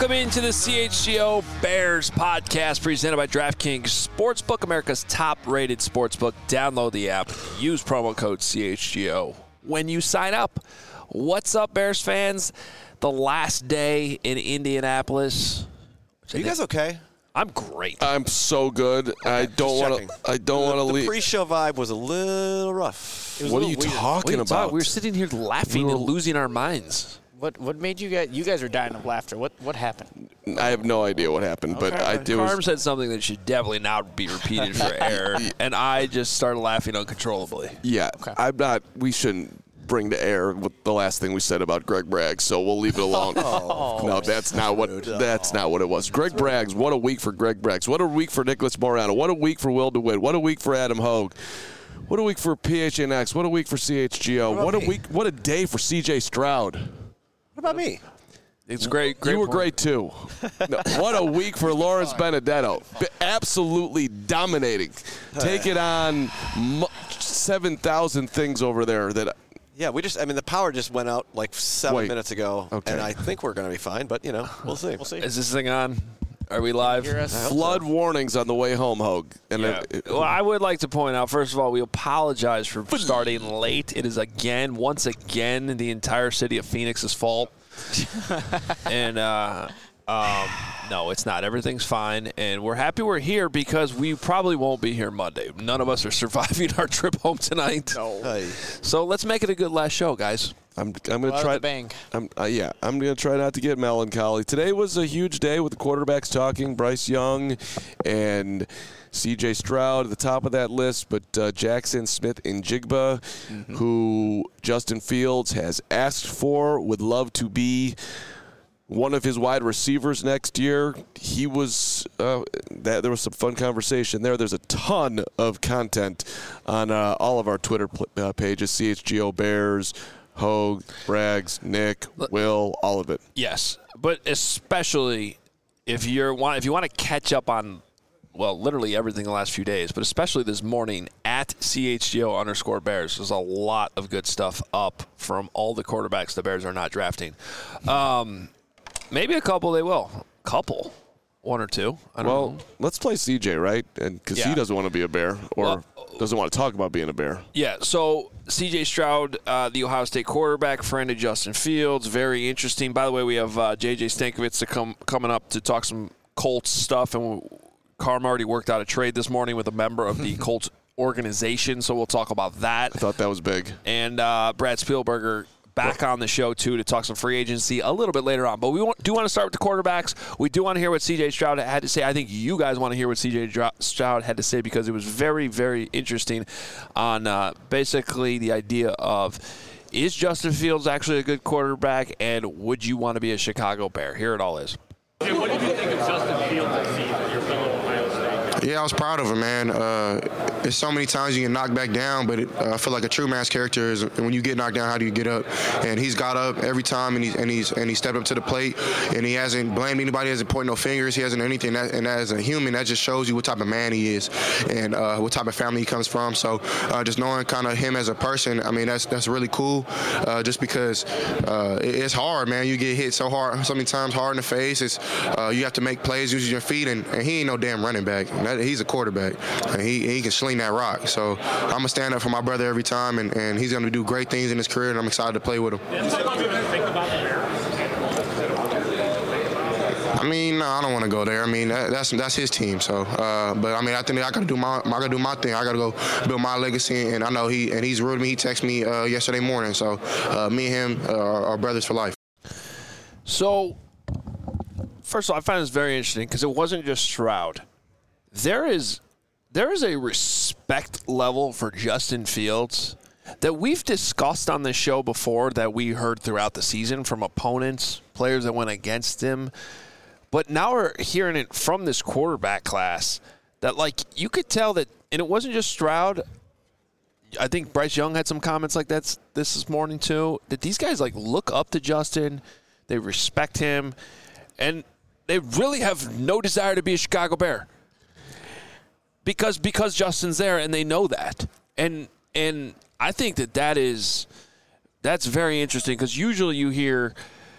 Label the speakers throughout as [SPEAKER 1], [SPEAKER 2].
[SPEAKER 1] Welcome into the CHGO Bears podcast presented by DraftKings Sportsbook, America's top-rated sportsbook. Download the app. Use promo code CHGO when you sign up. What's up, Bears fans? The last day in Indianapolis.
[SPEAKER 2] Are you guys okay?
[SPEAKER 1] I'm great.
[SPEAKER 3] I'm so good.
[SPEAKER 2] Okay,
[SPEAKER 3] I don't want to leave.
[SPEAKER 2] The pre-show vibe was a little rough.
[SPEAKER 3] What are you talking about?
[SPEAKER 1] We were sitting here laughing and losing our minds.
[SPEAKER 4] What made you guys are dying of laughter. What happened?
[SPEAKER 3] I have no idea what happened, but I do.
[SPEAKER 1] Carm said something that should definitely not be repeated for air, and I just started laughing uncontrollably.
[SPEAKER 3] Yeah, okay. I'm not. We shouldn't bring to air the last thing we said about Greg Bragg, so we'll leave it alone. No, that's not what it was. Greg Braggs, what a week for Greg Braggs. What a week for Nicholas Morano. What a week for Will DeWitt. What a week for Adam Hogue. What a week for PHNX. What a week for CHGO. What a week. What a day for CJ Stroud.
[SPEAKER 2] What about me?
[SPEAKER 1] It's great.
[SPEAKER 3] You were great, too. No, what a week for Lawrence Benedetto. Absolutely dominating. Take it on 7,000 things over there that –
[SPEAKER 2] yeah, the power just went out like 7 minutes ago, and I think we're going to be fine, but, we'll see.
[SPEAKER 1] Is this thing on? Are we live?
[SPEAKER 3] Flood warnings on the way home, Hogue.
[SPEAKER 1] Well, I would like to point out, first of all, we apologize for starting late. It is once again, the entire city of Phoenix's fault. And no, it's not. Everything's fine, and we're happy we're here because we probably won't be here Monday. None of us are surviving our trip home tonight.
[SPEAKER 4] No.
[SPEAKER 2] Hey.
[SPEAKER 1] So let's make it a good last show, guys.
[SPEAKER 3] I'm going to try.
[SPEAKER 4] Bang.
[SPEAKER 3] I'm going to try not to get melancholy. Today was a huge day with the quarterbacks talking. Bryce Young and C.J. Stroud at the top of that list, but Jackson Smith and Jigba, who Justin Fields has asked for, would love to be one of his wide receivers next year. He was there was some fun conversation there. There's a ton of content on all of our Twitter pages, CHGO Bears, Hogue, Braggs, Nick, Will, all of it.
[SPEAKER 1] Yes, but especially if you want to catch up on, well, literally everything the last few days, but especially this morning at CHGO_Bears. There's a lot of good stuff up from all the quarterbacks the Bears are not drafting. Maybe a couple they will. One or two. I don't know.
[SPEAKER 3] Let's play CJ, right? And because he doesn't want to be a Bear or doesn't want to talk about being a Bear.
[SPEAKER 1] Yeah, so CJ Stroud, the Ohio State quarterback, friend of Justin Fields. Very interesting. By the way, we have JJ Stankovitz coming up to talk some Colts stuff, and Carm already worked out a trade this morning with a member of the Colts organization, so we'll talk about that.
[SPEAKER 3] I thought that was big.
[SPEAKER 1] And Brad Spielberger back on the show, too, to talk some free agency a little bit later on. But we do want to start with the quarterbacks. We do want to hear what C.J. Stroud had to say. I think you guys want to hear what C.J. Stroud had to say because it was very, very interesting on basically the idea of, is Justin Fields actually a good quarterback, and would you want to be a Chicago Bear? Here it all is.
[SPEAKER 5] Hey, what did you think of Justin Fields this season, your fellow Ohio State?
[SPEAKER 6] Yeah, I was proud of him, man. It's so many times you get knocked back down, but I feel like a true man's character is when you get knocked down, how do you get up? And he's got up every time, and he stepped up to the plate, and he hasn't blamed anybody, hasn't pointed no fingers, he hasn't anything. And as a human, that just shows you what type of man he is and what type of family he comes from. So just knowing kind of him as a person, I mean, that's really cool. Just because it's hard, man. You get hit so hard, so many times hard in the face. It's you have to make plays using your feet, and he ain't no damn running back. He's a quarterback, and he can sling that rock. So I'm going to stand up for my brother every time, and he's going to do great things in his career, and I'm excited to play with him.
[SPEAKER 5] Did someone even think about the Bears?
[SPEAKER 6] I mean, no, I don't want to go there. I mean, that's his team. So, but I mean, I think I got to do my thing. I got to go build my legacy, and I know he's rude to me. He texted me yesterday morning. So, me and him are brothers for life.
[SPEAKER 1] So, first of all, I find this very interesting because it wasn't just Stroud. There is a respect level for Justin Fields that we've discussed on this show before that we heard throughout the season from opponents, players that went against him. But now we're hearing it from this quarterback class that, like, you could tell that, and it wasn't just Stroud. I think Bryce Young had some comments like that this morning too, that these guys, like, look up to Justin. They respect him. And they really have no desire to be a Chicago Bear. Because Justin's there, and they know that. And I think that's very interesting because usually you hear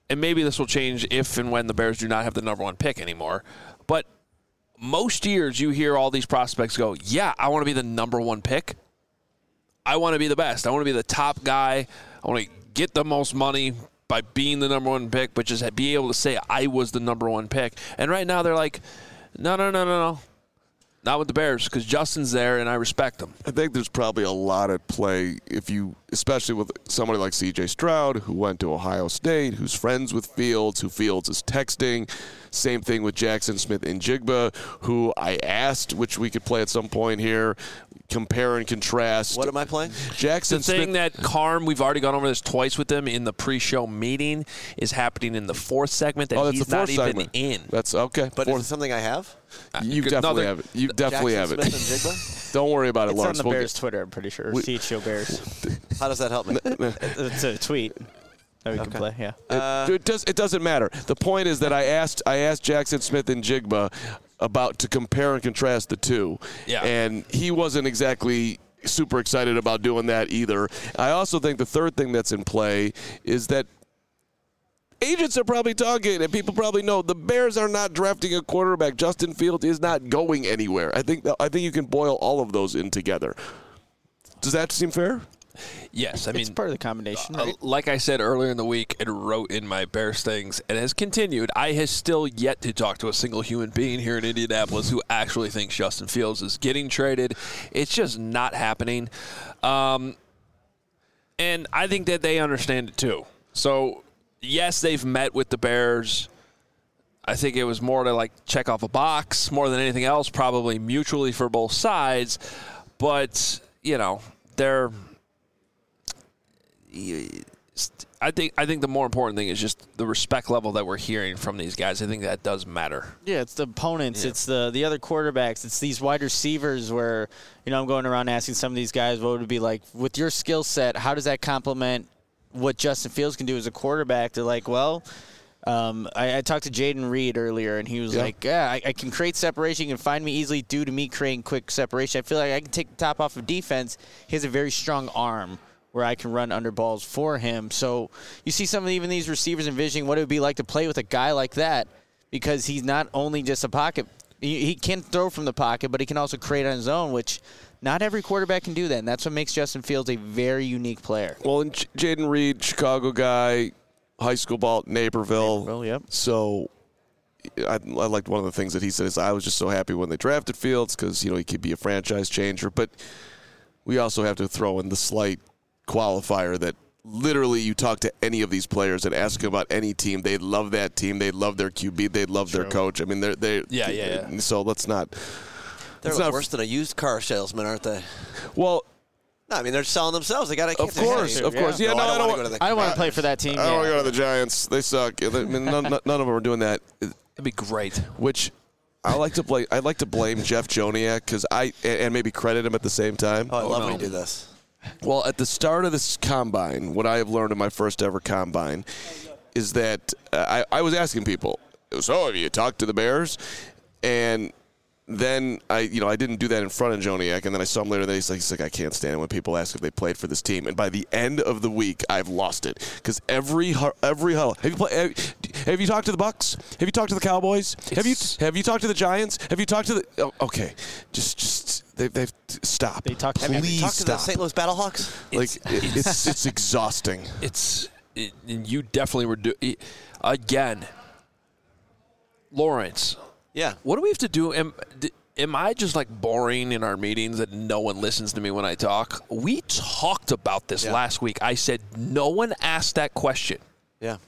[SPEAKER 1] and maybe this will change if and when the Bears do not have the number 1 pick anymore, but most years you hear all these prospects go, yeah, I want to be the number 1 pick. I want to be the best. I want to be the top guy. I want to get the most money by being the number 1 pick, but just be able to say I was the number 1 pick. And right now they're like, no. Not with the Bears, because Justin's there, and I respect him.
[SPEAKER 3] I think there's probably a lot at play especially with somebody like C.J. Stroud, who went to Ohio State, who's friends with Fields, who Fields is texting. Same thing with Jackson Smith-Njigba, who I asked, which we could play at some point here, compare and contrast.
[SPEAKER 2] What am I playing?
[SPEAKER 3] Jackson
[SPEAKER 1] The thing that Carm, we've already gone over this twice with him in the pre-show meeting, is happening in the 4th segment that he's not even in.
[SPEAKER 3] That's okay.
[SPEAKER 2] But is it something I have?
[SPEAKER 3] You definitely have it. You definitely have it.
[SPEAKER 2] Smith-Njigba?
[SPEAKER 3] Don't worry about it,
[SPEAKER 4] It's
[SPEAKER 3] Lawrence.
[SPEAKER 4] on the Bears Twitter, I'm pretty sure. CHO Bears.
[SPEAKER 2] How does that help me?
[SPEAKER 4] It's a tweet that we can play, yeah.
[SPEAKER 3] It doesn't matter. The point is that I asked Jackson Smith-Njigba to compare and contrast the two.
[SPEAKER 1] Yeah.
[SPEAKER 3] And he wasn't exactly super excited about doing that either. I also think the third thing that's in play is that agents are probably talking, and people probably know the Bears are not drafting a quarterback. Justin Fields is not going anywhere. I think you can boil all of those in together. Does that seem fair?
[SPEAKER 1] Yes, I mean,
[SPEAKER 4] it's part of the combination, right?
[SPEAKER 1] Like I said earlier in the week, and wrote in my Bears things, and has continued, I has still yet to talk to a single human being here in Indianapolis who actually thinks Justin Fields is getting traded. It's just not happening. And I think that they understand it too. So, yes, they've met with the Bears. I think it was more to like check off a box more than anything else, probably mutually for both sides. But, they're – I think the more important thing is just the respect level that we're hearing from these guys. I think that does matter.
[SPEAKER 4] Yeah, it's the opponents. Yeah. It's the other quarterbacks. It's these wide receivers where, I'm going around asking some of these guys what would it be like with your skill set, how does that complement what Justin Fields can do as a quarterback? They're like, well, I talked to Jaden Reed earlier, and he was like, I can create separation. You can find me easily due to me creating quick separation. I feel like I can take the top off of defense. He has a very strong arm where I can run under balls for him. So you see some of even these receivers envisioning what it would be like to play with a guy like that, because he's not only just a pocket. He can throw from the pocket, but he can also create on his own, which not every quarterback can do that, and that's what makes Justin Fields a very unique player.
[SPEAKER 3] Well, and Jaden Reed, Chicago guy, high school ball, Naperville.
[SPEAKER 4] Yep.
[SPEAKER 3] So I liked one of the things that he said is I was just so happy when they drafted Fields because, he could be a franchise changer. But we also have to throw in the slight qualifier that literally you talk to any of these players and ask them about any team, they love that team, they love their QB, they love their coach. I mean, they're So let's not.
[SPEAKER 2] They're worse than a used car salesman, aren't they?
[SPEAKER 3] Well,
[SPEAKER 2] no, I mean they're selling themselves. They got to.
[SPEAKER 3] Of course. Yeah,
[SPEAKER 2] no, I don't
[SPEAKER 4] want to play for that team.
[SPEAKER 3] I don't want to go to the Giants. They suck. I mean, none of them are doing that.
[SPEAKER 1] It'd be great.
[SPEAKER 3] Which I like to blame. I'd like to blame Jeff Joniak because and maybe credit him at the same time.
[SPEAKER 2] Oh, I love when you do this.
[SPEAKER 3] Well, at the start of this combine, what I have learned in my first ever combine is that I was asking people, so have you talked to the Bears? And then I didn't do that in front of Joniak, and then I saw him later. And he's like, I can't stand it when people ask if they played for this team. And by the end of the week, I've lost it because every huddle. Have you talked to the Bucks? Have you talked to the Cowboys? Have you talked to the Giants? Have you talked to the? Okay, just they've stop.
[SPEAKER 4] They talk.
[SPEAKER 2] Have you talked to the St. Louis Battlehawks?
[SPEAKER 3] It's exhausting.
[SPEAKER 1] And you definitely were again, Lawrence.
[SPEAKER 2] Yeah.
[SPEAKER 1] What do we have to do? Am I just like boring in our meetings that no one listens to me when I talk? We talked about this last week. I said no one asked that question.
[SPEAKER 2] Yeah.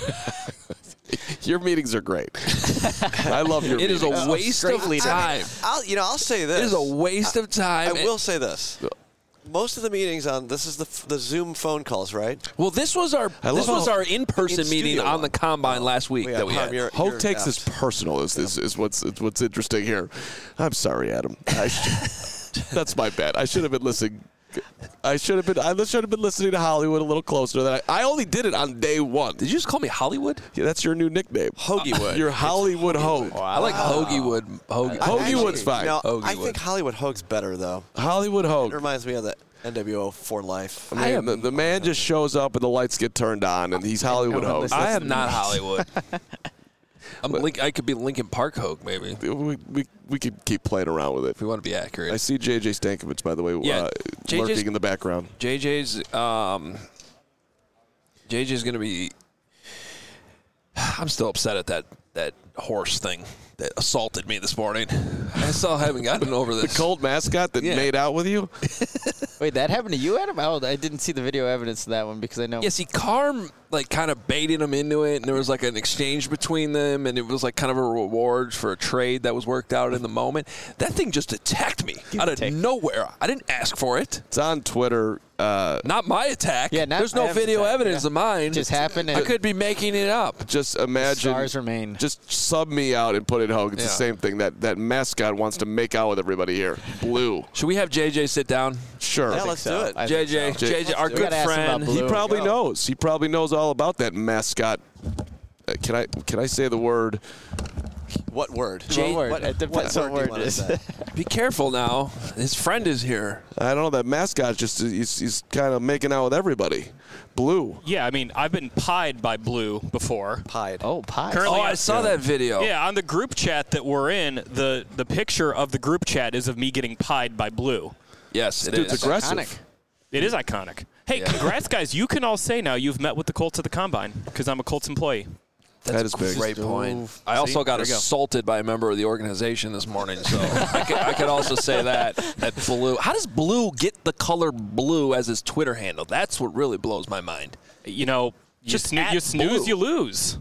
[SPEAKER 3] Your meetings are great. I love your meetings.
[SPEAKER 1] It is a waste of time.
[SPEAKER 2] I'll say this.
[SPEAKER 1] It is a waste of time.
[SPEAKER 2] I will say this. Most of the meetings on this is the Zoom phone calls, right?
[SPEAKER 1] Well, this was our in-person meeting on the combine last week that we had.
[SPEAKER 3] Hope takes this personal. Is what's interesting here. I'm sorry, Adam. That's my bad. I should have been listening. I should have been listening to Hollywood a little closer than I only did it on day one.
[SPEAKER 1] Did you just call me Hollywood?
[SPEAKER 3] Yeah, that's your new nickname.
[SPEAKER 2] Hoagiewood.
[SPEAKER 3] You're Hollywood Hogue.
[SPEAKER 1] Wow. I like Hoagiewood.
[SPEAKER 3] Hoagiewood's fine.
[SPEAKER 2] I think Hollywood Hogue's better though.
[SPEAKER 3] Hollywood Hogue.
[SPEAKER 2] It reminds me of that. NWO for life.
[SPEAKER 3] I mean, the man just shows up and the lights get turned on, and he's Hollywood host.
[SPEAKER 1] I am not Hollywood. I could be Lincoln Park Hogue, maybe.
[SPEAKER 3] We could keep playing around with it.
[SPEAKER 1] If we want to be accurate.
[SPEAKER 3] I see J.J. Stankovich, by the way, lurking in the background.
[SPEAKER 1] JJ's going to be – I'm still upset at that horse thing that assaulted me this morning. I still haven't gotten over this.
[SPEAKER 3] The Colt mascot that made out with you?
[SPEAKER 4] Wait, that happened to you, Adam? I didn't see the video evidence of that one because I know.
[SPEAKER 1] Yeah, see, Carm kind of baited him into it, and there was an exchange between them, and it was kind of a reward for a trade that was worked out in the moment. That thing just attacked me out of nowhere. I didn't ask for it.
[SPEAKER 3] It's on Twitter.
[SPEAKER 1] Not my attack.
[SPEAKER 4] Yeah,
[SPEAKER 1] there's no video evidence of mine.
[SPEAKER 4] It just happened.
[SPEAKER 1] I could be making it up.
[SPEAKER 3] Just imagine.
[SPEAKER 4] Stars remain.
[SPEAKER 3] Just sub me out and put it Hogue. It's the same thing. That mascot wants to make out with everybody here. Blue.
[SPEAKER 1] Should we have JJ sit down?
[SPEAKER 3] Sure.
[SPEAKER 2] Yeah, let's do it.
[SPEAKER 1] JJ, our good friend.
[SPEAKER 3] He probably knows. He probably knows all about that mascot. Can I say the word?
[SPEAKER 2] What word?
[SPEAKER 4] It depends what word it is.
[SPEAKER 1] Be careful now. His friend is here.
[SPEAKER 3] I don't know. That mascot he's kind of making out with everybody. Blue.
[SPEAKER 5] Yeah, I mean, I've been pied by Blue before.
[SPEAKER 2] Pied.
[SPEAKER 4] Oh, pie.
[SPEAKER 5] Currently,
[SPEAKER 1] I saw that video.
[SPEAKER 5] Yeah, on the group chat that we're in, the picture of the group chat is of me getting pied by Blue.
[SPEAKER 1] Yes, it
[SPEAKER 3] Dude's
[SPEAKER 1] is.
[SPEAKER 3] aggressive.
[SPEAKER 4] Iconic.
[SPEAKER 5] It is iconic. Hey, congrats, guys. You can all say now you've met with the Colts at the Combine because I'm a Colts employee.
[SPEAKER 3] That is big.
[SPEAKER 1] Great point. I also got assaulted by a member of the organization this morning, so I could also say that Blue. How does Blue get the color blue as his Twitter handle? That's what really blows my mind.
[SPEAKER 5] You know, you snooze, you lose.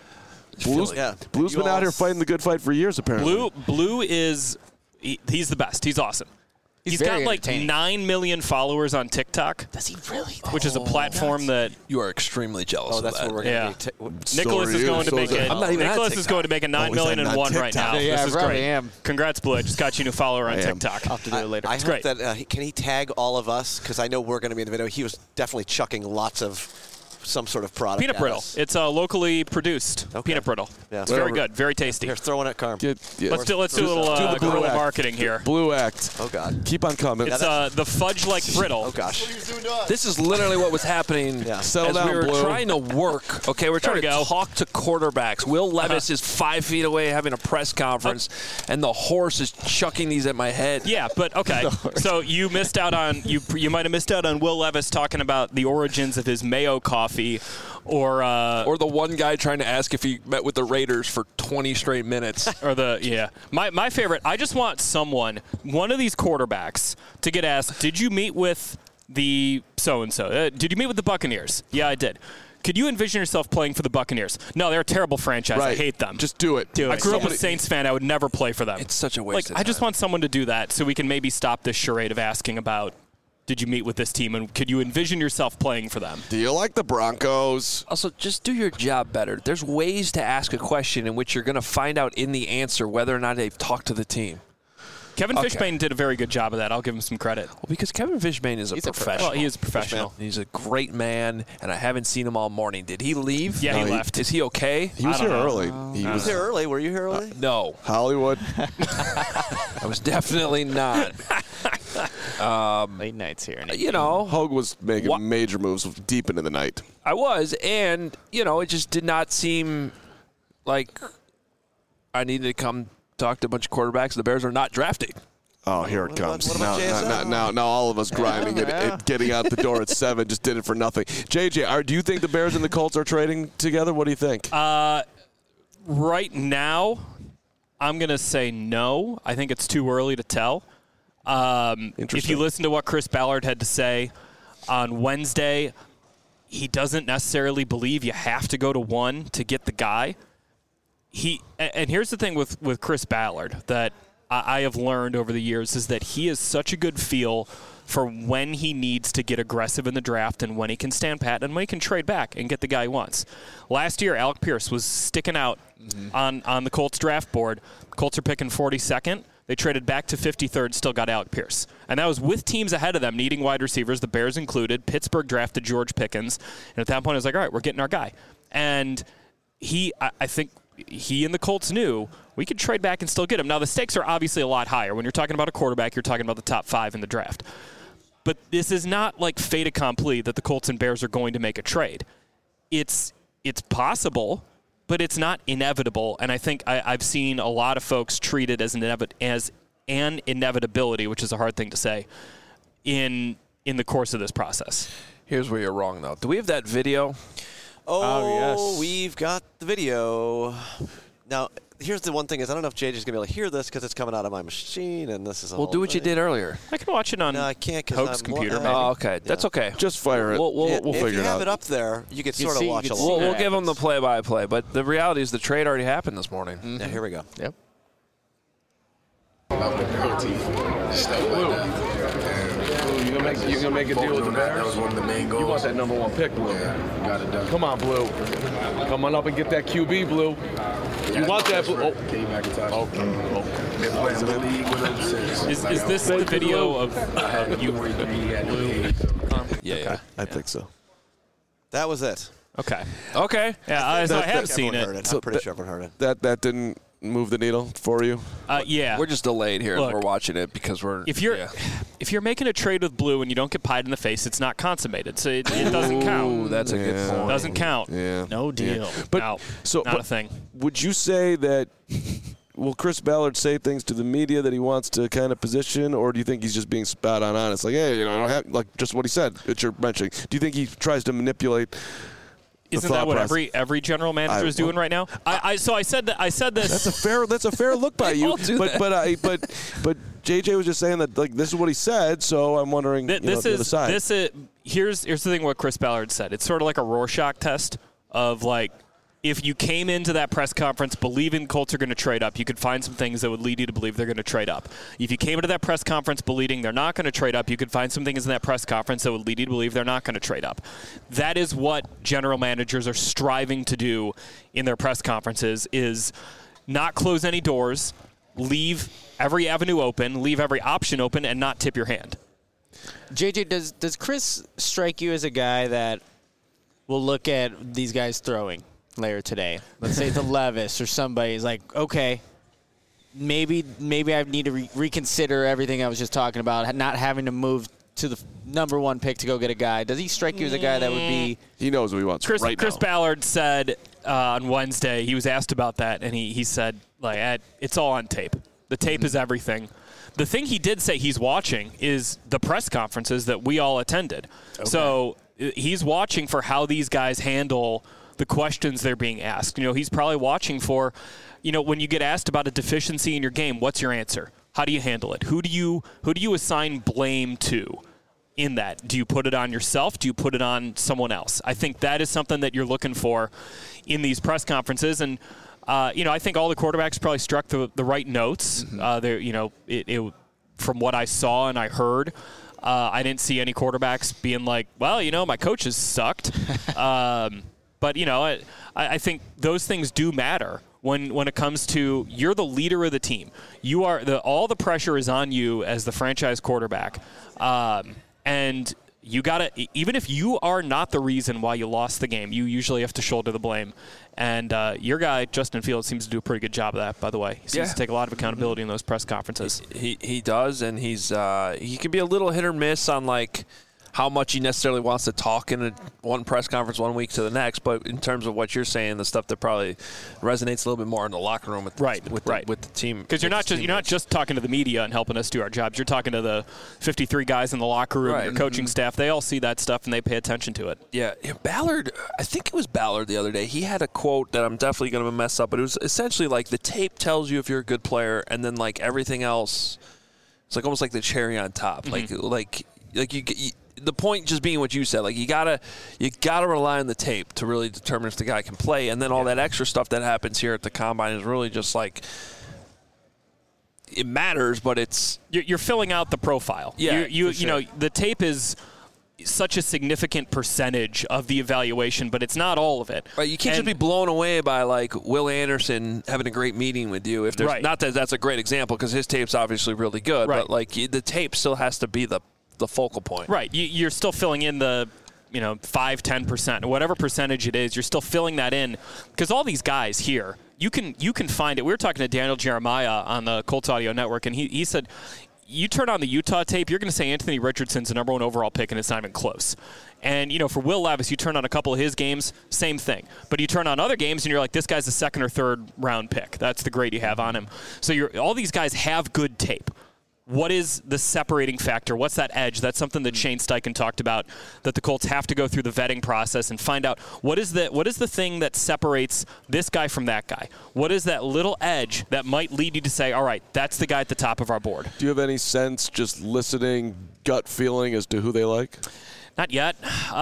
[SPEAKER 3] Blue's been out here fighting the good fight for years, apparently.
[SPEAKER 5] Blue is he's the best. He's awesome. He's got 9 million followers on TikTok.
[SPEAKER 4] Does he really?
[SPEAKER 5] Which is a platform that
[SPEAKER 1] you are extremely jealous of.
[SPEAKER 2] That's what we're going to
[SPEAKER 5] be. Nicholas is going to make it. Nicholas is going to make a 9 million and one right now.
[SPEAKER 4] Yeah,
[SPEAKER 5] this is great. Am. Congrats, Blue. I just got you a new follower on TikTok.
[SPEAKER 4] I'll have to do it later.
[SPEAKER 2] I hope that can he tag all of us because I know we're going to be in the video. He was definitely chucking lots of some sort of product.
[SPEAKER 5] Peanut brittle. It's locally produced peanut brittle. Yeah. It's very good, very tasty.
[SPEAKER 2] Here, throw one at Carm.
[SPEAKER 5] Let's do a little guerrilla marketing here.
[SPEAKER 3] Blue Act.
[SPEAKER 2] Oh God.
[SPEAKER 3] Keep on coming.
[SPEAKER 5] It's the fudge-like brittle.
[SPEAKER 2] Oh gosh.
[SPEAKER 1] This is literally what was happening
[SPEAKER 3] Settle down,
[SPEAKER 1] we were
[SPEAKER 3] Blue.
[SPEAKER 1] trying to work. Okay, we're trying to talk to quarterbacks. Will Levis is 5 feet away having a press conference, and the horse is chucking these at my head.
[SPEAKER 5] Yeah, but okay. So you missed out on you might have missed out on Will Levis talking about the origins of his Mayo coffee. Or
[SPEAKER 1] the one guy trying to ask if he met with the Raiders for 20 straight minutes.
[SPEAKER 5] My favorite, I just want one of these quarterbacks to get asked, did you meet with the so-and-so? Did you meet with the Buccaneers? Yeah, I did. Could you envision yourself playing for the Buccaneers? No, they're a terrible franchise.
[SPEAKER 3] Right.
[SPEAKER 5] I hate them.
[SPEAKER 3] Just do it.
[SPEAKER 5] I grew up a Saints fan. I would never play for them.
[SPEAKER 1] It's such a waste of time.
[SPEAKER 5] I just want someone to do that so we can maybe stop this charade of asking about did you meet with this team, and could you envision yourself playing for them?
[SPEAKER 3] Do you like the Broncos?
[SPEAKER 1] Also, just do your job better. There's ways to ask a question in which you're going to find out in the answer whether or not they've talked to the team.
[SPEAKER 5] Kevin Fishbane did a very good job of that. I'll give him some credit.
[SPEAKER 1] Well, because Kevin Fishbane is a professional.
[SPEAKER 5] He is a professional.
[SPEAKER 1] He's a great man, and I haven't seen him all morning. Did he leave?
[SPEAKER 5] Yeah, he left.
[SPEAKER 1] Is he okay?
[SPEAKER 3] He was here early.
[SPEAKER 2] He was here early. Were you here early?
[SPEAKER 1] No.
[SPEAKER 3] Hollywood.
[SPEAKER 1] I was definitely not.
[SPEAKER 4] Late nights here.
[SPEAKER 3] Hogue was making major moves deep into the night.
[SPEAKER 1] I was, and, it just did not seem like I needed to come talk to a bunch of quarterbacks. The Bears are not drafting.
[SPEAKER 3] Oh, here it comes.
[SPEAKER 2] What about
[SPEAKER 3] Now all of us grinding and getting out the door at 7 just did it for nothing. JJ, do you think the Bears and the Colts are trading together? What do you think?
[SPEAKER 5] Right now, I'm going to say no. I think it's too early to tell. If you listen to what Chris Ballard had to say on Wednesday, he doesn't necessarily believe you have to go to one to get the guy. And here's the thing with Chris Ballard that I have learned over the years is that he has such a good feel for when he needs to get aggressive in the draft and when he can stand pat and when he can trade back and get the guy he wants. Last year, Alec Pierce was sticking out on the Colts draft board. Colts are picking 42nd. They traded back to 53rd, still got Alec Pierce. And that was with teams ahead of them needing wide receivers, the Bears included. Pittsburgh drafted George Pickens. And at that point, I was like, all right, we're getting our guy. And I think he and the Colts knew we could trade back and still get him. Now, the stakes are obviously a lot higher. When you're talking about a quarterback, you're talking about the top 5 in the draft. But this is not like fait accompli that the Colts and Bears are going to make a trade. It's possible, but it's not inevitable. And I think I've seen a lot of folks treat it as an inevitability, which is a hard thing to say, in the course of this process.
[SPEAKER 1] Here's where you're wrong, though. Do we have that video?
[SPEAKER 2] Oh,
[SPEAKER 4] yes.
[SPEAKER 2] We've got the video. Now, here's the one thing is I don't know if JJ's going to be able to hear this because it's coming out of my machine, and this is a
[SPEAKER 1] Well,
[SPEAKER 2] whole
[SPEAKER 1] do what you
[SPEAKER 2] thing.
[SPEAKER 1] did earlier.
[SPEAKER 5] I can watch it on
[SPEAKER 2] No, I can't because
[SPEAKER 5] Hoke's computer, maybe.
[SPEAKER 1] Oh, okay. That's okay.
[SPEAKER 3] Just fire it.
[SPEAKER 1] We'll
[SPEAKER 2] If
[SPEAKER 3] figure
[SPEAKER 2] you
[SPEAKER 3] it
[SPEAKER 2] have
[SPEAKER 3] out.
[SPEAKER 2] it up there, you could sort of
[SPEAKER 4] see- you
[SPEAKER 2] watch
[SPEAKER 4] can
[SPEAKER 2] along.
[SPEAKER 4] see
[SPEAKER 1] We'll
[SPEAKER 4] that.
[SPEAKER 1] give them the play-by-play, but the reality is the trade already happened this morning.
[SPEAKER 2] Yeah, here we go.
[SPEAKER 4] Yep.
[SPEAKER 3] You gonna make a deal with the Bears?
[SPEAKER 7] That was one of the main goals.
[SPEAKER 3] You want that number 1 pick, Blue?
[SPEAKER 7] Yeah, got it done.
[SPEAKER 3] Come on, Blue. Come on up and get that QB, Blue. You want that, Blue? Oh.
[SPEAKER 7] Came back and touched. Been playing the league with him since.
[SPEAKER 5] Is this the video of you?
[SPEAKER 1] Yeah.
[SPEAKER 3] I think so.
[SPEAKER 2] That was it.
[SPEAKER 5] Okay.
[SPEAKER 1] Okay.
[SPEAKER 5] Yeah, so I have seen
[SPEAKER 2] Everyone heard
[SPEAKER 5] it.
[SPEAKER 2] it. I'm pretty sure everyone heard it.
[SPEAKER 3] That didn't move the needle for you?
[SPEAKER 5] Yeah.
[SPEAKER 1] We're just delayed here.
[SPEAKER 5] Look,
[SPEAKER 1] We're watching it because we're.
[SPEAKER 5] If you're making a trade with Blue and you don't get pied in the face, it's not consummated, so it doesn't count.
[SPEAKER 1] Ooh, that's a good point.
[SPEAKER 5] Doesn't count.
[SPEAKER 3] Yeah.
[SPEAKER 4] No deal.
[SPEAKER 3] Yeah. But
[SPEAKER 5] No,
[SPEAKER 3] so
[SPEAKER 5] not
[SPEAKER 3] but
[SPEAKER 5] a thing.
[SPEAKER 3] Would you say that? Will Chris Ballard say things to the media that he wants to kind of position, or do you think he's just being spot on honest? Like, hey, I don't have like just what he said that you're mentioning. Do you think he tries to manipulate?
[SPEAKER 5] Isn't that what every general manager is doing right now? I said this.
[SPEAKER 3] That's a fair look by you.
[SPEAKER 1] all do
[SPEAKER 3] but JJ was just saying that like this is what he said, so I'm wondering the other side.
[SPEAKER 5] Here's the thing. What Chris Ballard said. It's sort of like a Rorschach test of like. If you came into that press conference believing Colts are going to trade up, you could find some things that would lead you to believe they're going to trade up. If you came into that press conference believing they're not going to trade up, you could find some things in that press conference that would lead you to believe they're not going to trade up. That is what general managers are striving to do in their press conferences is not close any doors, leave every avenue open, leave every option open, and not tip your hand.
[SPEAKER 4] JJ, does Chris strike you as a guy that will look at these guys throwing later today? Let's say the Levis or somebody is like, okay, maybe I need to reconsider everything I was just talking about, not having to move to the number 1 pick to go get a guy. Does he strike you as a guy that would be?
[SPEAKER 3] He knows what he wants
[SPEAKER 5] Chris
[SPEAKER 3] now.
[SPEAKER 5] Ballard said on Wednesday, he was asked about that, and he said, like, it's all on tape. The tape is everything. The thing he did say he's watching is the press conferences that we all attended. Okay. So he's watching for how these guys handle the questions they're being asked. He's probably watching for, when you get asked about a deficiency in your game, what's your answer? How do you handle it? Who do you assign blame to in that? Do you put it on yourself? Do you put it on someone else? I think that is something that you're looking for in these press conferences. And, I think all the quarterbacks probably struck the right notes. Mm-hmm. From what I saw and I heard, I didn't see any quarterbacks being like, well, my coaches sucked. But, I think those things do matter when it comes to you're the leader of the team. You are all the pressure is on you as the franchise quarterback. And you got to, even if you are not the reason why you lost the game, you usually have to shoulder the blame. And your guy, Justin Fields, seems to do a pretty good job of that, by the way. He seems to take a lot of accountability in those press conferences.
[SPEAKER 1] He does, and he can be a little hit or miss on, like, how much he necessarily wants to talk in one press conference 1 week to the next, but in terms of what you're saying, the stuff that probably resonates a little bit more in the locker room with the team.
[SPEAKER 5] Because you're not just talking to the media and helping us do our jobs. You're talking to the 53 guys in the locker room, your coaching staff. They all see that stuff and they pay attention to it.
[SPEAKER 1] Yeah, Ballard. I think it was Ballard the other day. He had a quote that I'm definitely going to mess up, but it was essentially like the tape tells you if you're a good player, and then like everything else, it's like almost like the cherry on top.
[SPEAKER 5] Mm-hmm.
[SPEAKER 1] Like you the point just being what you said, like you gotta rely on the tape to really determine if the guy can play, and then all that extra stuff that happens here at the combine is really just like it matters, but it's
[SPEAKER 5] you're filling out the profile.
[SPEAKER 1] Yeah,
[SPEAKER 5] the tape is such a significant percentage of the evaluation, but it's not all of it.
[SPEAKER 1] Right, you can't just be blown away by like Will Anderson having a great meeting with you. If there's not that that's a great example because his tape's obviously really good, but like the tape still has to be the focal point.
[SPEAKER 5] Right. You're still filling in the 5-10%, whatever percentage it is. You're still filling that in because all these guys here, you can find it. We were talking to Daniel Jeremiah on the Colts Audio Network, and he said you turn on the Utah tape, you're going to say Anthony Richardson's the number 1 overall pick, and it's not even close. And, for Will Levis, you turn on a couple of his games, same thing. But you turn on other games, and you're like, this guy's a 2nd or 3rd round pick. That's the grade you have on him. So all these guys have good tape. What is the separating factor? What's that edge? That's something that Shane Steichen talked about, that the Colts have to go through the vetting process and find out what is the thing that separates this guy from that guy? What is that little edge that might lead you to say, all right, that's the guy at the top of our board?
[SPEAKER 3] Do you have any sense, just listening, gut feeling as to who they like?
[SPEAKER 5] Not yet.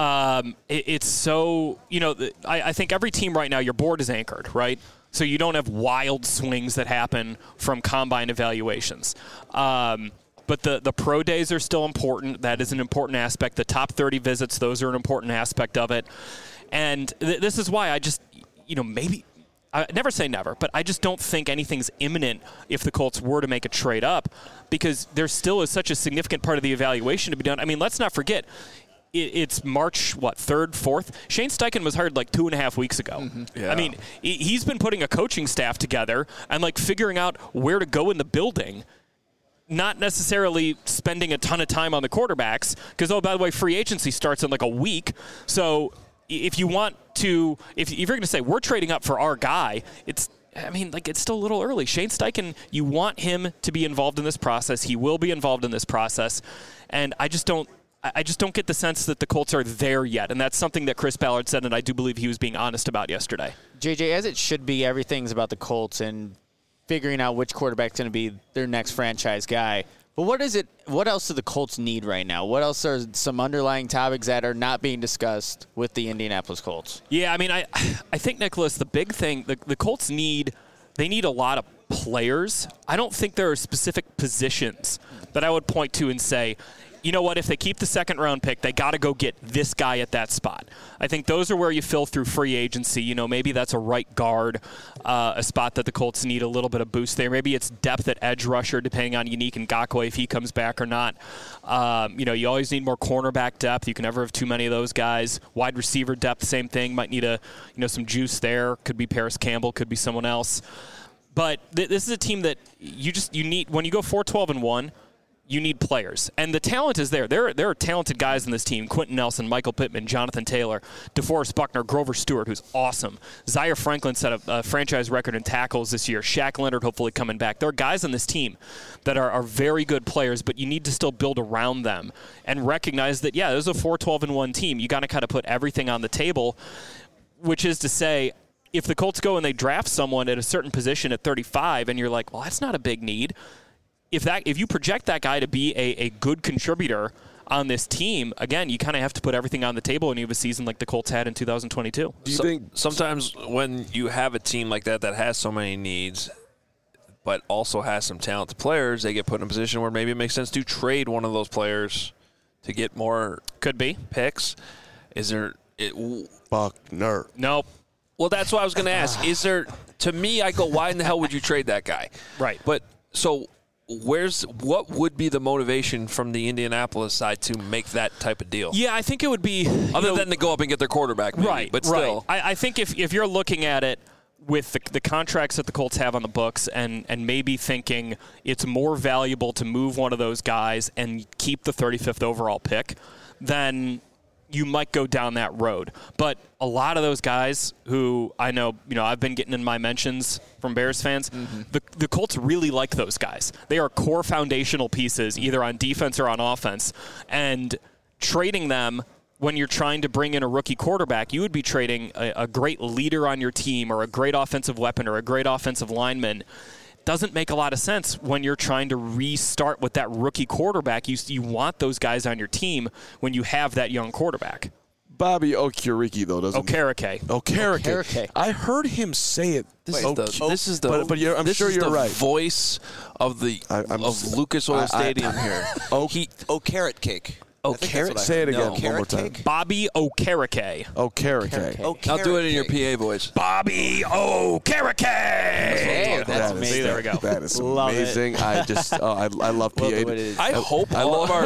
[SPEAKER 5] It's so, I think every team right now, your board is anchored, right? So you don't have wild swings that happen from combine evaluations. But the pro days are still important. That is an important aspect. The top 30 visits, those are an important aspect of it. And this is why I just, maybe – I never say never, but I just don't think anything's imminent if the Colts were to make a trade up, because there still is such a significant part of the evaluation to be done. I mean, let's not forget – it's March, 3rd, 4th? Shane Steichen was hired 2.5 weeks ago. Mm-hmm. Yeah. I mean, he's been putting a coaching staff together and figuring out where to go in the building, not necessarily spending a ton of time on the quarterbacks, because, by the way, free agency starts in a week. So if you want to, if you're going to say we're trading up for our guy, it's still a little early. Shane Steichen, you want him to be involved in this process. He will be involved in this process. And I just don't get the sense that the Colts are there yet, and that's something that Chris Ballard said, and I do believe he was being honest about yesterday.
[SPEAKER 4] JJ, as it should be, everything's about the Colts and figuring out which quarterback's going to be their next franchise guy. But what else do the Colts need right now? What else are some underlying topics that are not being discussed with the Indianapolis Colts?
[SPEAKER 5] Yeah, I think, Nicholas, the big thing, the Colts need a lot of players. I don't think there are specific positions that I would point to and say, you know what, if they keep the 2nd round pick, they got to go get this guy at that spot. I think those are where you fill through free agency. Maybe that's a right guard, a spot that the Colts need a little bit of boost there. Maybe it's depth at edge rusher, depending on Unique Ngakoue if he comes back or not. You always need more cornerback depth. You can never have too many of those guys. Wide receiver depth, same thing. Might need some juice there. Could be Paris Campbell, could be someone else. But this is a team that you need, when you go 4-12-1, you need players. And the talent is there. There are talented guys in this team. Quentin Nelson, Michael Pittman, Jonathan Taylor, DeForest Buckner, Grover Stewart, who's awesome. Zaire Franklin set a franchise record in tackles this year. Shaq Leonard hopefully coming back. There are guys on this team that are very good players, but you need to still build around them and recognize that, yeah, there's a 4-12-1 team. You got to kind of put everything on the table, which is to say, if the Colts go and they draft someone at a certain position at 35 and you're like, well, that's not a big need, if you project that guy to be a good contributor on this team, again, you kind of have to put everything on the table when you have a season like the Colts had in 2022.
[SPEAKER 1] Do you think sometimes when you have a team like that has so many needs but also has some talented players, they get put in a position where maybe it makes sense to trade one of those players to get more picks? Is there
[SPEAKER 3] Buckner?
[SPEAKER 5] Nope.
[SPEAKER 1] Well, that's what I was going to ask. Is there, to me, I go, why in the hell would you trade that guy?
[SPEAKER 5] Right.
[SPEAKER 1] But so what would be the motivation from the Indianapolis side to make that type of deal?
[SPEAKER 5] Yeah, I think it would be
[SPEAKER 1] other than to go up and get their quarterback, maybe,
[SPEAKER 5] right?
[SPEAKER 1] But still,
[SPEAKER 5] right. I think if you're looking at it with the contracts that the Colts have on the books, and maybe thinking it's more valuable to move one of those guys and keep the 35th overall pick, then you might go down that road. But a lot of those guys who I know, I've been getting in my mentions from Bears fans, the Colts really like those guys. They are core foundational pieces, either on defense or on offense. And trading them when you're trying to bring in a rookie quarterback, you would be trading a great leader on your team or a great offensive weapon or a great offensive lineman. Doesn't make a lot of sense when you're trying to restart with that rookie quarterback. You want those guys on your team when you have that young quarterback.
[SPEAKER 3] Bobby Okereke, though, doesn't
[SPEAKER 5] Okereke.
[SPEAKER 3] I heard him say it.
[SPEAKER 1] This is the.
[SPEAKER 3] But I'm sure you're right.
[SPEAKER 1] Voice of the of Lucas Oil Stadium here.
[SPEAKER 2] Carrot cake.
[SPEAKER 3] Say it again one more time.
[SPEAKER 2] Cake?
[SPEAKER 5] Bobby Okereke.
[SPEAKER 3] Okereke.
[SPEAKER 1] I'll do it in your PA voice.
[SPEAKER 5] Bobby Okereke.
[SPEAKER 4] Hey, that's amazing.
[SPEAKER 5] See, there we go.
[SPEAKER 3] That is
[SPEAKER 4] Love
[SPEAKER 3] amazing. I just, I love PA.
[SPEAKER 1] I hope all of our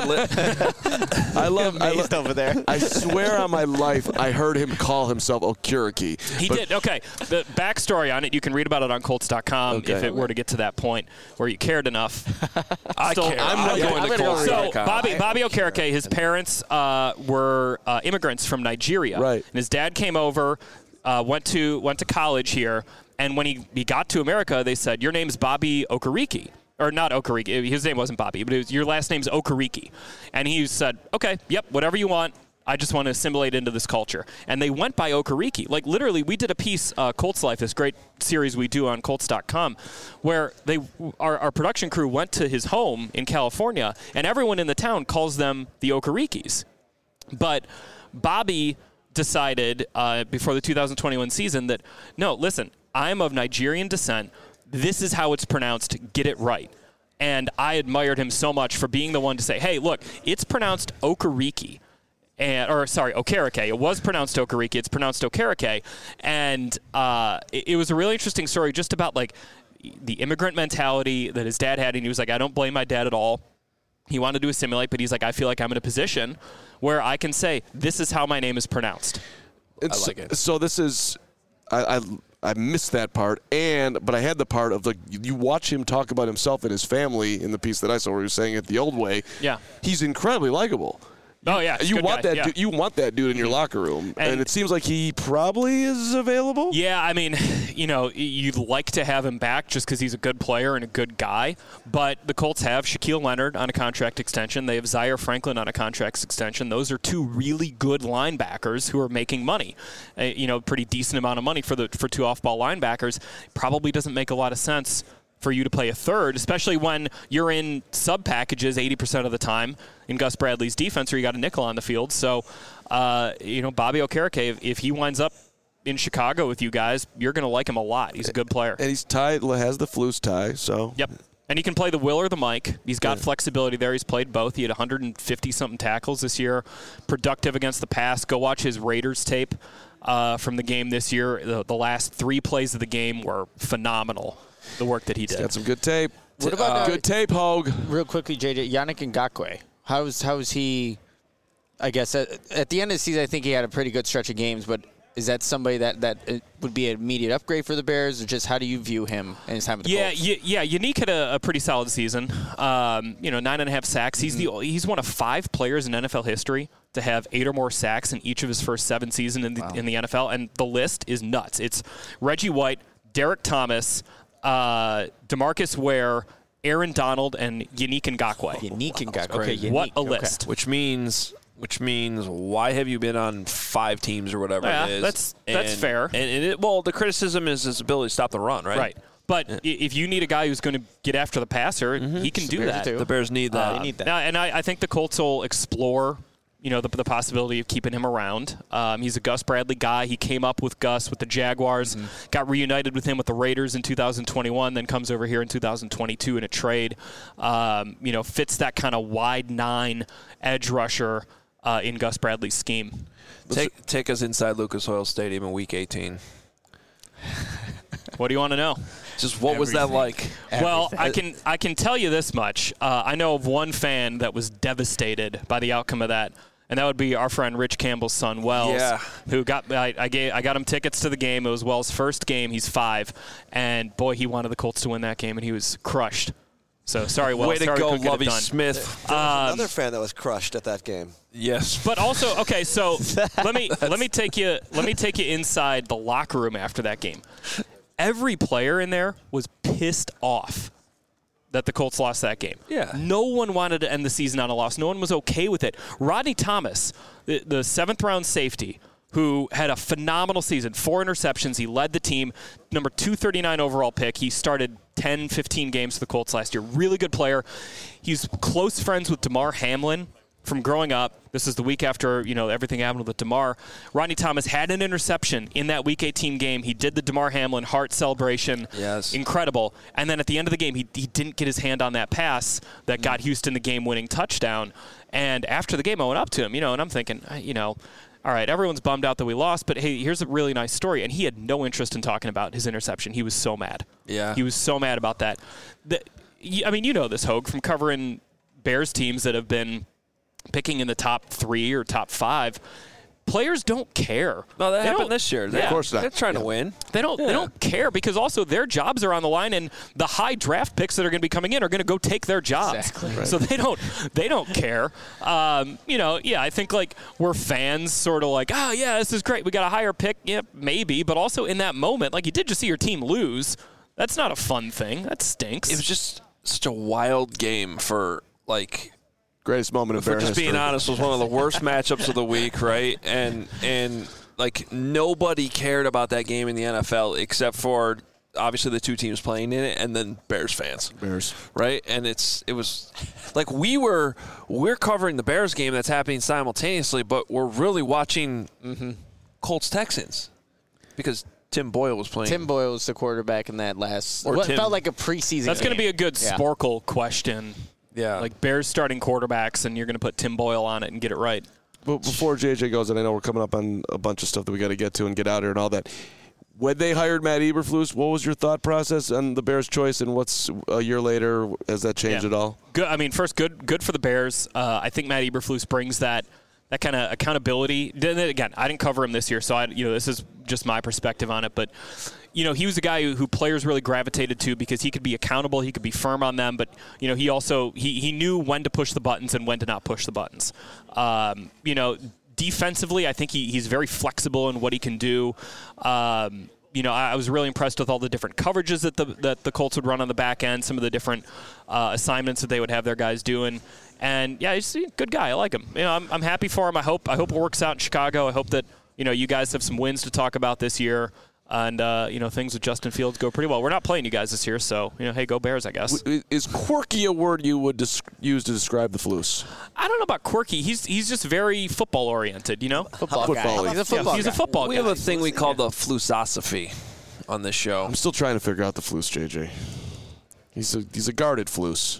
[SPEAKER 3] I love
[SPEAKER 4] over there.
[SPEAKER 3] I swear on my life, I heard him call himself Okereke.
[SPEAKER 5] He did. Okay. The backstory on it, you can read about it on Colts.com if it were to get to that point where you cared enough.
[SPEAKER 1] I care.
[SPEAKER 5] I'm
[SPEAKER 1] going to Colts.
[SPEAKER 5] So Bobby Okereke, his parents were immigrants from Nigeria.
[SPEAKER 3] Right.
[SPEAKER 5] And his dad came over, went to college here, and when he got to America, they said, your name's Bobby Okereke. Or not Okereke. His name wasn't Bobby, but your last name's Okereke. And he said, okay, yep, whatever you want. I just want to assimilate into this culture. And they went by Okereke. Like, literally, we did a piece, Colts Life, this great series we do on Colts.com, where our production crew went to his home in California, and everyone in the town calls them the Okerekes. But Bobby decided before the 2021 season that, no, listen, I'm of Nigerian descent. This is how it's pronounced. Get it right. And I admired him so much for being the one to say, hey, look, it's pronounced Okereke. Okereke. It was pronounced Okereke. It's pronounced Okereke. And it was a really interesting story just about, like, the immigrant mentality that his dad had. And he was like, I don't blame my dad at all. He wanted to assimilate, but he's like, I feel like I'm in a position where I can say, this is how my name is pronounced.
[SPEAKER 1] I like it.
[SPEAKER 3] So this is, I missed that part, but I had the part of, like, you watch him talk about himself and his family in the piece that I saw where he was saying it the old way.
[SPEAKER 5] Yeah.
[SPEAKER 3] He's incredibly likable.
[SPEAKER 5] Oh, yeah.
[SPEAKER 3] You want that. You want that dude in your locker room, and it seems like he probably is available.
[SPEAKER 5] Yeah, I mean, you'd like to have him back just because he's a good player and a good guy. But the Colts have Shaquille Leonard on a contract extension. They have Zaire Franklin on a contract extension. Those are two really good linebackers who are making money. Pretty decent amount of money for two off-ball linebackers. Probably doesn't make a lot of sense for you to play a third, especially when you're in sub packages 80% of the time in Gus Bradley's defense, or you got a nickel on the field. So, Bobby Okereke, if he winds up in Chicago with you guys, you're going to like him a lot. He's a good player.
[SPEAKER 3] And he's tied, has the Flus tie, so.
[SPEAKER 5] Yep. And he can play the Will or the Mike. He's got flexibility there. He's played both. He had 150-something tackles this year. Productive against the pass. Go watch his Raiders tape from the game this year. The last 3 plays of the game were phenomenal. The work that he did.
[SPEAKER 3] He's got some good tape.
[SPEAKER 4] What about
[SPEAKER 3] good tape, Hogue?
[SPEAKER 4] Real quickly, JJ, Yannick Ngakoue. How is he? I guess at the end of the season, I think he had a pretty good stretch of games. But is that somebody that would be an immediate upgrade for the Bears, or just how do you view him and his time with the Colts?
[SPEAKER 5] Yeah. Yannick had a pretty solid season. 9.5 sacks. He's one of 5 players in NFL history to have 8 or more sacks in each of his first 7 seasons in the NFL, and the list is nuts. It's Reggie White, Derek Thomas, DeMarcus Ware, Aaron Donald, and Yannick Ngakoue.
[SPEAKER 4] Okay, Yannick.
[SPEAKER 5] What a list.
[SPEAKER 1] Which means why have you been on 5 teams or whatever it is?
[SPEAKER 5] That's fair.
[SPEAKER 1] And the criticism is his ability to stop the run, right?
[SPEAKER 5] Right. But if you need a guy who's going to get after the passer, he can do that.
[SPEAKER 1] The Bears need that.
[SPEAKER 4] They need that.
[SPEAKER 5] Now, and I think the Colts will explore the possibility of keeping him around. He's a Gus Bradley guy. He came up with Gus with the Jaguars, got reunited with him with the Raiders in 2021, then comes over here in 2022 in a trade. Fits that kind of wide 9 edge rusher in Gus Bradley's scheme.
[SPEAKER 1] Take us inside Lucas Oil Stadium in Week 18.
[SPEAKER 5] What do you want to know?
[SPEAKER 1] Just what was that like?
[SPEAKER 5] Well, I can tell you this much. I know of one fan that was devastated by the outcome of that. And that would be our friend Rich Campbell's son, Wells, who I got him tickets to the game. It was Wells' first game. He's 5. And, boy, he wanted the Colts to win that game, and he was crushed. So, sorry, Wells.
[SPEAKER 1] Way to go, Lovie Smith.
[SPEAKER 2] There was another fan that was crushed at that game.
[SPEAKER 1] Yes.
[SPEAKER 5] But also, okay, so let me take you inside the locker room after that game. Every player in there was pissed off that the Colts lost that game.
[SPEAKER 1] Yeah.
[SPEAKER 5] No one wanted to end the season on a loss. No one was okay with it. Rodney Thomas, the 7th-round safety, who had a phenomenal season, 4 interceptions. He led the team, number 239 overall pick. He started 10, 15 games for the Colts last year. Really good player. He's close friends with DeMar Hamlin, from growing up, this is the week after, everything happened with DeMar. Rodney Thomas had an interception in that Week 18 game. He did the DeMar Hamlin heart celebration.
[SPEAKER 1] Yes.
[SPEAKER 5] Incredible. And then at the end of the game, he didn't get his hand on that pass that got Houston the game-winning touchdown. And after the game, I went up to him, and I'm thinking, all right, everyone's bummed out that we lost, but hey, here's a really nice story. And he had no interest in talking about his interception. He was so mad.
[SPEAKER 1] Yeah.
[SPEAKER 5] He was so mad about that. You know this, Hogue, from covering Bears teams that have been picking in the top 3 or top 5. Players don't care.
[SPEAKER 1] No, that happened this year.
[SPEAKER 3] Of course not.
[SPEAKER 1] They're trying to win.
[SPEAKER 5] They don't care because also their jobs are on the line, and the high draft picks that are going to be coming in are going to go take their jobs.
[SPEAKER 4] Exactly.
[SPEAKER 5] Right. So they don't care. I think like we're fans, sort of like, this is great. We got a higher pick, maybe, but also in that moment, like you did just see your team lose. That's not a fun thing. That stinks.
[SPEAKER 1] It was just such a wild game for like.
[SPEAKER 3] Greatest moment of Bear
[SPEAKER 1] history. Just being honest, was one of the worst matchups of the week, right? And like nobody cared about that game in the NFL except for obviously the two teams playing in it, and then Bears fans. Right? And it was like we're covering the Bears game that's happening simultaneously, but we're really watching Colts Texans because Tim Boyle was playing.
[SPEAKER 4] Tim Boyle was the quarterback in that last.
[SPEAKER 1] Or
[SPEAKER 4] what
[SPEAKER 1] Tim.
[SPEAKER 4] felt like a preseason.
[SPEAKER 5] That's going to be a good
[SPEAKER 4] Yeah.
[SPEAKER 5] Sporkle question.
[SPEAKER 1] Yeah.
[SPEAKER 5] Like Bears starting quarterbacks, and you're going to put Tim Boyle on it and get it right.
[SPEAKER 3] But before JJ goes, and I know we're coming up on a bunch of stuff that we got to get to and get out here and all that. When they hired Matt Eberflus, what was your thought process on the Bears' choice, and what's a year later? Has that changed at all?
[SPEAKER 5] Good. I mean, first, good for the Bears. I think Matt Eberflus brings that kind of accountability. Then again, I didn't cover him this year, so this is just my perspective on it. But he was a guy who players really gravitated to because he could be accountable, he could be firm on them, but he also he knew when to push the buttons and when to not push the buttons. Defensively, I think he's very flexible in what he can do. I was really impressed with all the different coverages that the Colts would run on the back end, some of the different assignments that they would have their guys doing. And yeah, he's a good guy. I like him. I'm happy for him. I hope it works out in Chicago. I hope that you guys have some wins to talk about this year. And, things with Justin Fields go pretty well. We're not playing you guys this year, so, hey, go Bears, I guess.
[SPEAKER 3] Is quirky a word you would use to describe the Flus?
[SPEAKER 5] I don't know about quirky. He's just very football-oriented,
[SPEAKER 4] Football guy. He's a football
[SPEAKER 5] He's a football guy.
[SPEAKER 1] We have a thing we call the Flusosophy on this show.
[SPEAKER 3] I'm still trying to figure out the Flus, JJ. He's a guarded Flus.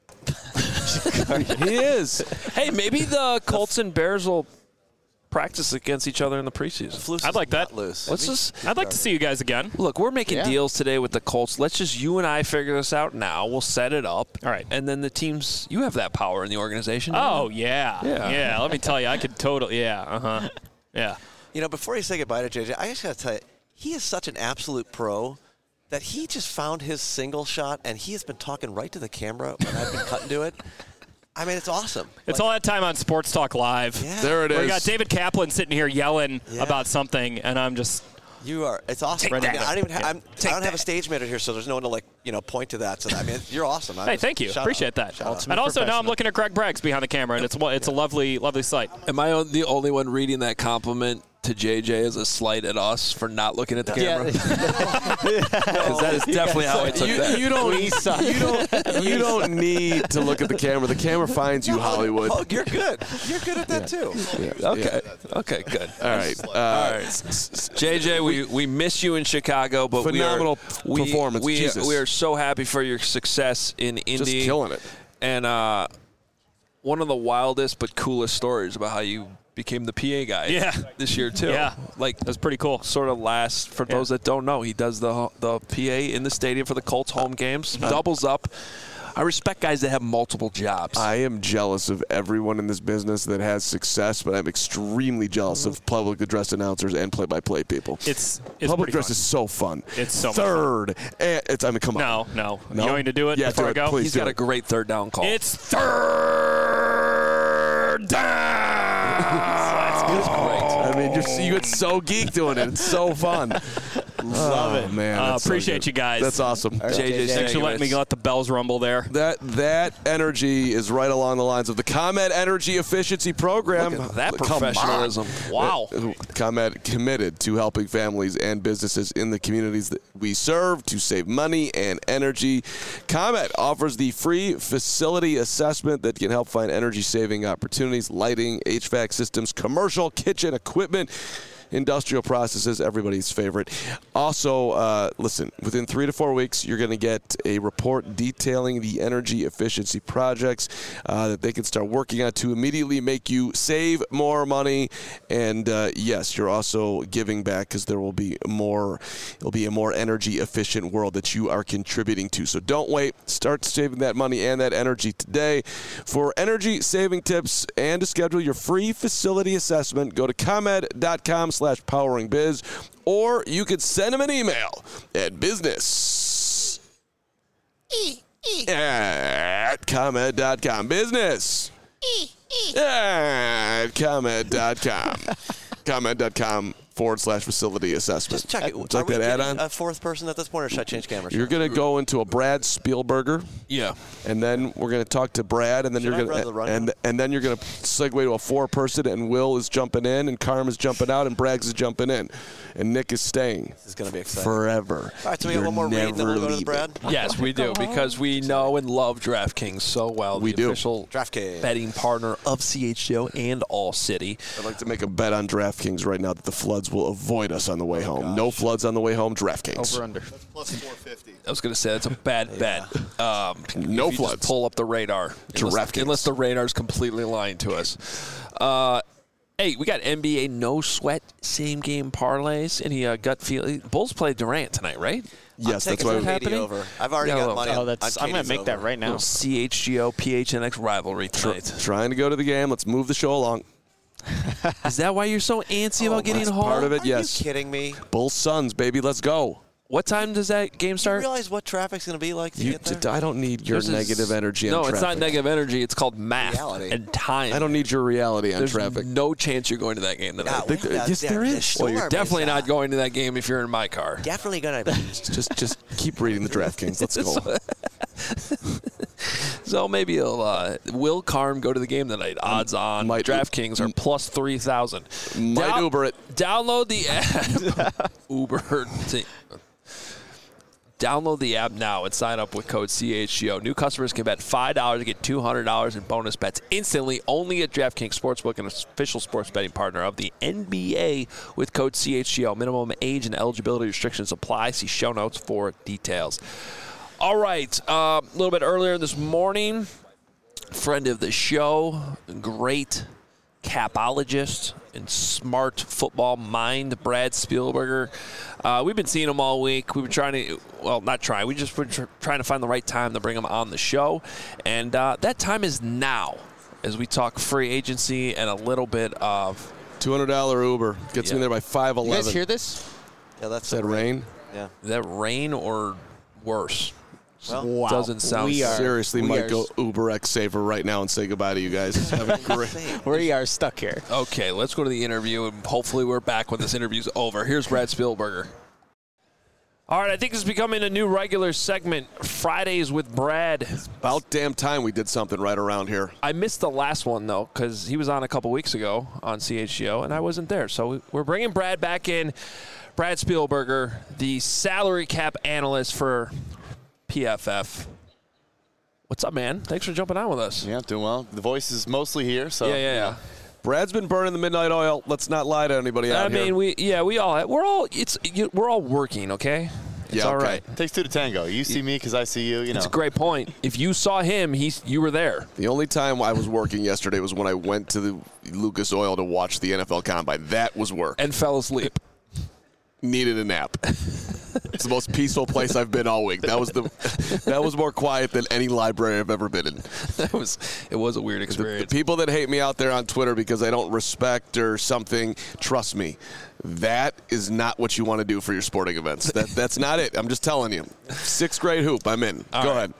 [SPEAKER 3] He is.
[SPEAKER 1] Hey, maybe the Colts and Bears will practice against each other in the preseason.
[SPEAKER 5] I'd like that. I'd like to see you guys again.
[SPEAKER 1] Look, we're making deals today with the Colts. Let's just you and I figure this out now. We'll set it up.
[SPEAKER 5] All right.
[SPEAKER 1] And then the teams, you have that power in the organization.
[SPEAKER 5] Oh, yeah. Let me tell you, I could totally, yeah.
[SPEAKER 2] Before you say goodbye to JJ, I just got to tell you, he is such an absolute pro that he just found his single shot, and he has been talking right to the camera when I've been cutting to it. I mean, it's awesome.
[SPEAKER 5] It's all that time on Sports Talk Live.
[SPEAKER 2] Yeah.
[SPEAKER 3] There it is.
[SPEAKER 5] We got David Kaplan sitting here yelling about something, and I'm just...
[SPEAKER 2] You are. It's awesome. I don't have a stage manager here, so there's no one to point to that. So you're awesome.
[SPEAKER 5] Hey, thank you. Appreciate that.
[SPEAKER 2] Out.
[SPEAKER 5] And also now I'm looking at Greg Braggs behind the camera, and it's a lovely, lovely sight.
[SPEAKER 1] Am I the only one reading that compliment to JJ as a slight at us for not looking at the camera? Because that is definitely how I took that.
[SPEAKER 3] You don't need to look at the camera. The camera finds you, Hollywood.
[SPEAKER 2] Oh, you're good. You're good at that too.
[SPEAKER 1] Okay, good.
[SPEAKER 3] All right.
[SPEAKER 1] JJ, we miss you in Chicago, but
[SPEAKER 3] phenomenal performance.
[SPEAKER 1] We are so happy for your success in Indy.
[SPEAKER 3] Just killing it.
[SPEAKER 1] And one of the wildest but coolest stories about how you became the PA guy this year too.
[SPEAKER 5] Yeah,
[SPEAKER 1] like
[SPEAKER 5] that's pretty cool.
[SPEAKER 1] Sort of last for those that don't know, he does the PA in the stadium for the Colts home games. Doubles up. I respect guys that have multiple jobs.
[SPEAKER 3] I am jealous of everyone in this business that has success, but I'm extremely jealous of public address announcers and play-by-play people.
[SPEAKER 5] It's
[SPEAKER 3] public address
[SPEAKER 5] fun.
[SPEAKER 3] is so fun.
[SPEAKER 5] It's so
[SPEAKER 3] third. Come on.
[SPEAKER 5] No. You going to do it?
[SPEAKER 3] Yeah,
[SPEAKER 5] before
[SPEAKER 3] do
[SPEAKER 5] I go?
[SPEAKER 3] Please
[SPEAKER 1] He's got a great third down call.
[SPEAKER 5] It's third down.
[SPEAKER 3] That's great. I mean, you get so geeked doing it. It's so fun.
[SPEAKER 4] Love it.
[SPEAKER 3] Man, that's so
[SPEAKER 5] appreciate
[SPEAKER 3] good.
[SPEAKER 5] you guys.
[SPEAKER 3] That's awesome.
[SPEAKER 1] JJ,
[SPEAKER 5] Thanks for letting me let the bells rumble there.
[SPEAKER 3] That energy is right along the lines of the ComEd Energy Efficiency Program.
[SPEAKER 1] Look at that
[SPEAKER 3] Come on.
[SPEAKER 1] professionalism. Wow.
[SPEAKER 3] ComEd committed to helping families and businesses in the communities that we serve to save money and energy. ComEd offers the free facility assessment that can help find energy-saving opportunities, lighting, HVAC systems, commercial kitchen equipment, industrial processes, everybody's favorite. Also, listen, within 3 to 4 weeks, you're going to get a report detailing the energy efficiency projects that they can start working on to immediately make you save more money. And yes, you're also giving back because there will be more. It'll be a more energy efficient world that you are contributing to. So don't wait. Start saving that money and that energy today. For energy saving tips and to schedule your free facility assessment, go to ComEd.com/poweringbiz, or you could send them an email at business@ComEd.com. Business at ComEd.com. ComEd.com/facility assessment.
[SPEAKER 2] Just check it.
[SPEAKER 3] Would you like that add-on?
[SPEAKER 2] A fourth person at this point, or should I change cameras?
[SPEAKER 3] You're going to go into a Brad Spielberger.
[SPEAKER 1] Yeah.
[SPEAKER 3] And then we're going to talk to Brad, and then
[SPEAKER 2] Should I
[SPEAKER 3] you're
[SPEAKER 2] run the
[SPEAKER 3] going
[SPEAKER 2] rundown?
[SPEAKER 3] and then you're going to segue to a 4-person, and Will is jumping in, and Carm is jumping out, and Braggs is jumping in, and Nick is staying.
[SPEAKER 2] This is going to be exciting.
[SPEAKER 3] Forever.
[SPEAKER 2] All right, so we got
[SPEAKER 3] You're
[SPEAKER 2] one more read, and then we'll go to the
[SPEAKER 3] never
[SPEAKER 2] Brad.
[SPEAKER 1] Yes, we do, because we know and love DraftKings so well.
[SPEAKER 3] We
[SPEAKER 1] the
[SPEAKER 3] do.
[SPEAKER 1] official
[SPEAKER 2] DraftKings.
[SPEAKER 1] betting partner of CHGO and All City.
[SPEAKER 3] I'd like to make a bet on DraftKings right now that the floods will avoid us on the way home. No floods on the way home, DraftKings.
[SPEAKER 4] Over under.
[SPEAKER 7] Plus 450.
[SPEAKER 1] I was going to say that's a bad bet.
[SPEAKER 3] No
[SPEAKER 1] if you
[SPEAKER 3] floods.
[SPEAKER 1] Just pull up the radar.
[SPEAKER 3] DraftKings.
[SPEAKER 1] Unless the radar's completely lying to us. Hey, we got NBA no sweat same game parlays. Any gut feel? Bulls play Durant tonight, right?
[SPEAKER 3] Yes, that's
[SPEAKER 2] Taking
[SPEAKER 3] why
[SPEAKER 2] some
[SPEAKER 3] we
[SPEAKER 2] KD over. I've already
[SPEAKER 1] Yeah,
[SPEAKER 2] got money.
[SPEAKER 4] Oh,
[SPEAKER 2] on
[SPEAKER 4] I'm going
[SPEAKER 2] KD's
[SPEAKER 4] to make that
[SPEAKER 2] over.
[SPEAKER 4] right now.
[SPEAKER 1] CHGO PHNX rivalry tonight.
[SPEAKER 3] trying to go to the game. Let's move the show along.
[SPEAKER 1] Is that why you're so antsy about getting
[SPEAKER 3] that's
[SPEAKER 1] home?
[SPEAKER 3] part of it.
[SPEAKER 2] Are
[SPEAKER 3] Yes.
[SPEAKER 2] you kidding me?
[SPEAKER 3] Bulls Suns, baby. Let's go.
[SPEAKER 1] What time does that game
[SPEAKER 2] Do you
[SPEAKER 1] start?
[SPEAKER 2] realize what traffic's going to be like to
[SPEAKER 3] You,
[SPEAKER 2] get there?
[SPEAKER 3] I don't need your
[SPEAKER 1] This is-
[SPEAKER 3] negative energy on
[SPEAKER 1] No,
[SPEAKER 3] traffic.
[SPEAKER 1] it's not negative energy. It's called math
[SPEAKER 2] Reality.
[SPEAKER 1] and time.
[SPEAKER 3] I don't need your reality on
[SPEAKER 1] There's
[SPEAKER 3] traffic.
[SPEAKER 1] no chance you're going to that game tonight.
[SPEAKER 3] Yes, there is.
[SPEAKER 1] Well, you're definitely not going to that game if you're in my car.
[SPEAKER 2] Definitely going to be.
[SPEAKER 3] Just keep reading the DraftKings. Let's go.
[SPEAKER 1] So maybe will Carm go to the game tonight? Odds on.
[SPEAKER 3] might-
[SPEAKER 1] DraftKings are plus 3,000.
[SPEAKER 3] Might Uber it.
[SPEAKER 1] Download the app. Uber. Download the app now and sign up with code CHGO. New customers can bet $5 to get $200 in bonus bets instantly only at DraftKings Sportsbook, an official sports betting partner of the NBA with code CHGO. Minimum age and eligibility restrictions apply. See show notes for details. All right. A little bit earlier this morning, friend of the show, great capologist and smart football mind, Brad Spielberger. We've been seeing him all week. We've been trying to, well, not trying. We just been trying to find the right time to bring him on the show. And that time is now as we talk free agency and a little bit of
[SPEAKER 3] $200 Uber gets me there by 5:11.
[SPEAKER 4] You guys hear this?
[SPEAKER 2] Yeah, that's
[SPEAKER 3] Is that rain?
[SPEAKER 2] Yeah.
[SPEAKER 1] is that rain or worse.
[SPEAKER 2] Well,
[SPEAKER 4] Wow.
[SPEAKER 1] Doesn't sound
[SPEAKER 4] We are-
[SPEAKER 3] Seriously,
[SPEAKER 4] we
[SPEAKER 3] might
[SPEAKER 4] are-
[SPEAKER 3] go Uber X Saver right now and say goodbye to you guys. Have a great.
[SPEAKER 4] We are stuck here.
[SPEAKER 1] Okay, let's go to the interview, and hopefully we're back when this interview's over. Here's Brad Spielberger. All right, I think this is becoming a new regular segment, Fridays with Brad.
[SPEAKER 3] About damn time we did something right around here.
[SPEAKER 1] I missed the last one, though, because he was on a couple weeks ago on CHGO, and I wasn't there. So we're bringing Brad back in. Brad Spielberger, the salary cap analyst for PFF. What's up, man? Thanks for jumping on with us.
[SPEAKER 8] Yeah, doing well. The voice is mostly here, so
[SPEAKER 1] Yeah.
[SPEAKER 3] Brad's been burning the midnight oil. Let's not lie to anybody out here.
[SPEAKER 1] I mean, we're all working, okay? It's
[SPEAKER 3] Yeah,
[SPEAKER 1] all
[SPEAKER 3] okay.
[SPEAKER 1] right.
[SPEAKER 8] It takes two to tango. You see me because I see you. You know.
[SPEAKER 1] It's a great point. If you saw him, you were there.
[SPEAKER 3] The only time I was working yesterday was when I went to the Lucas Oil to watch the NFL Combine. That was work.
[SPEAKER 1] And fell asleep.
[SPEAKER 3] Needed a nap. It's the most peaceful place I've been all week. That was more quiet than any library I've ever been in.
[SPEAKER 1] It was a weird
[SPEAKER 3] The
[SPEAKER 1] experience.
[SPEAKER 3] people that hate me out there on Twitter because I don't respect or something, trust me, that is not what you want to do for your sporting events. That's not it. I'm just telling you. 6th grade hoop, I'm in. Go ahead.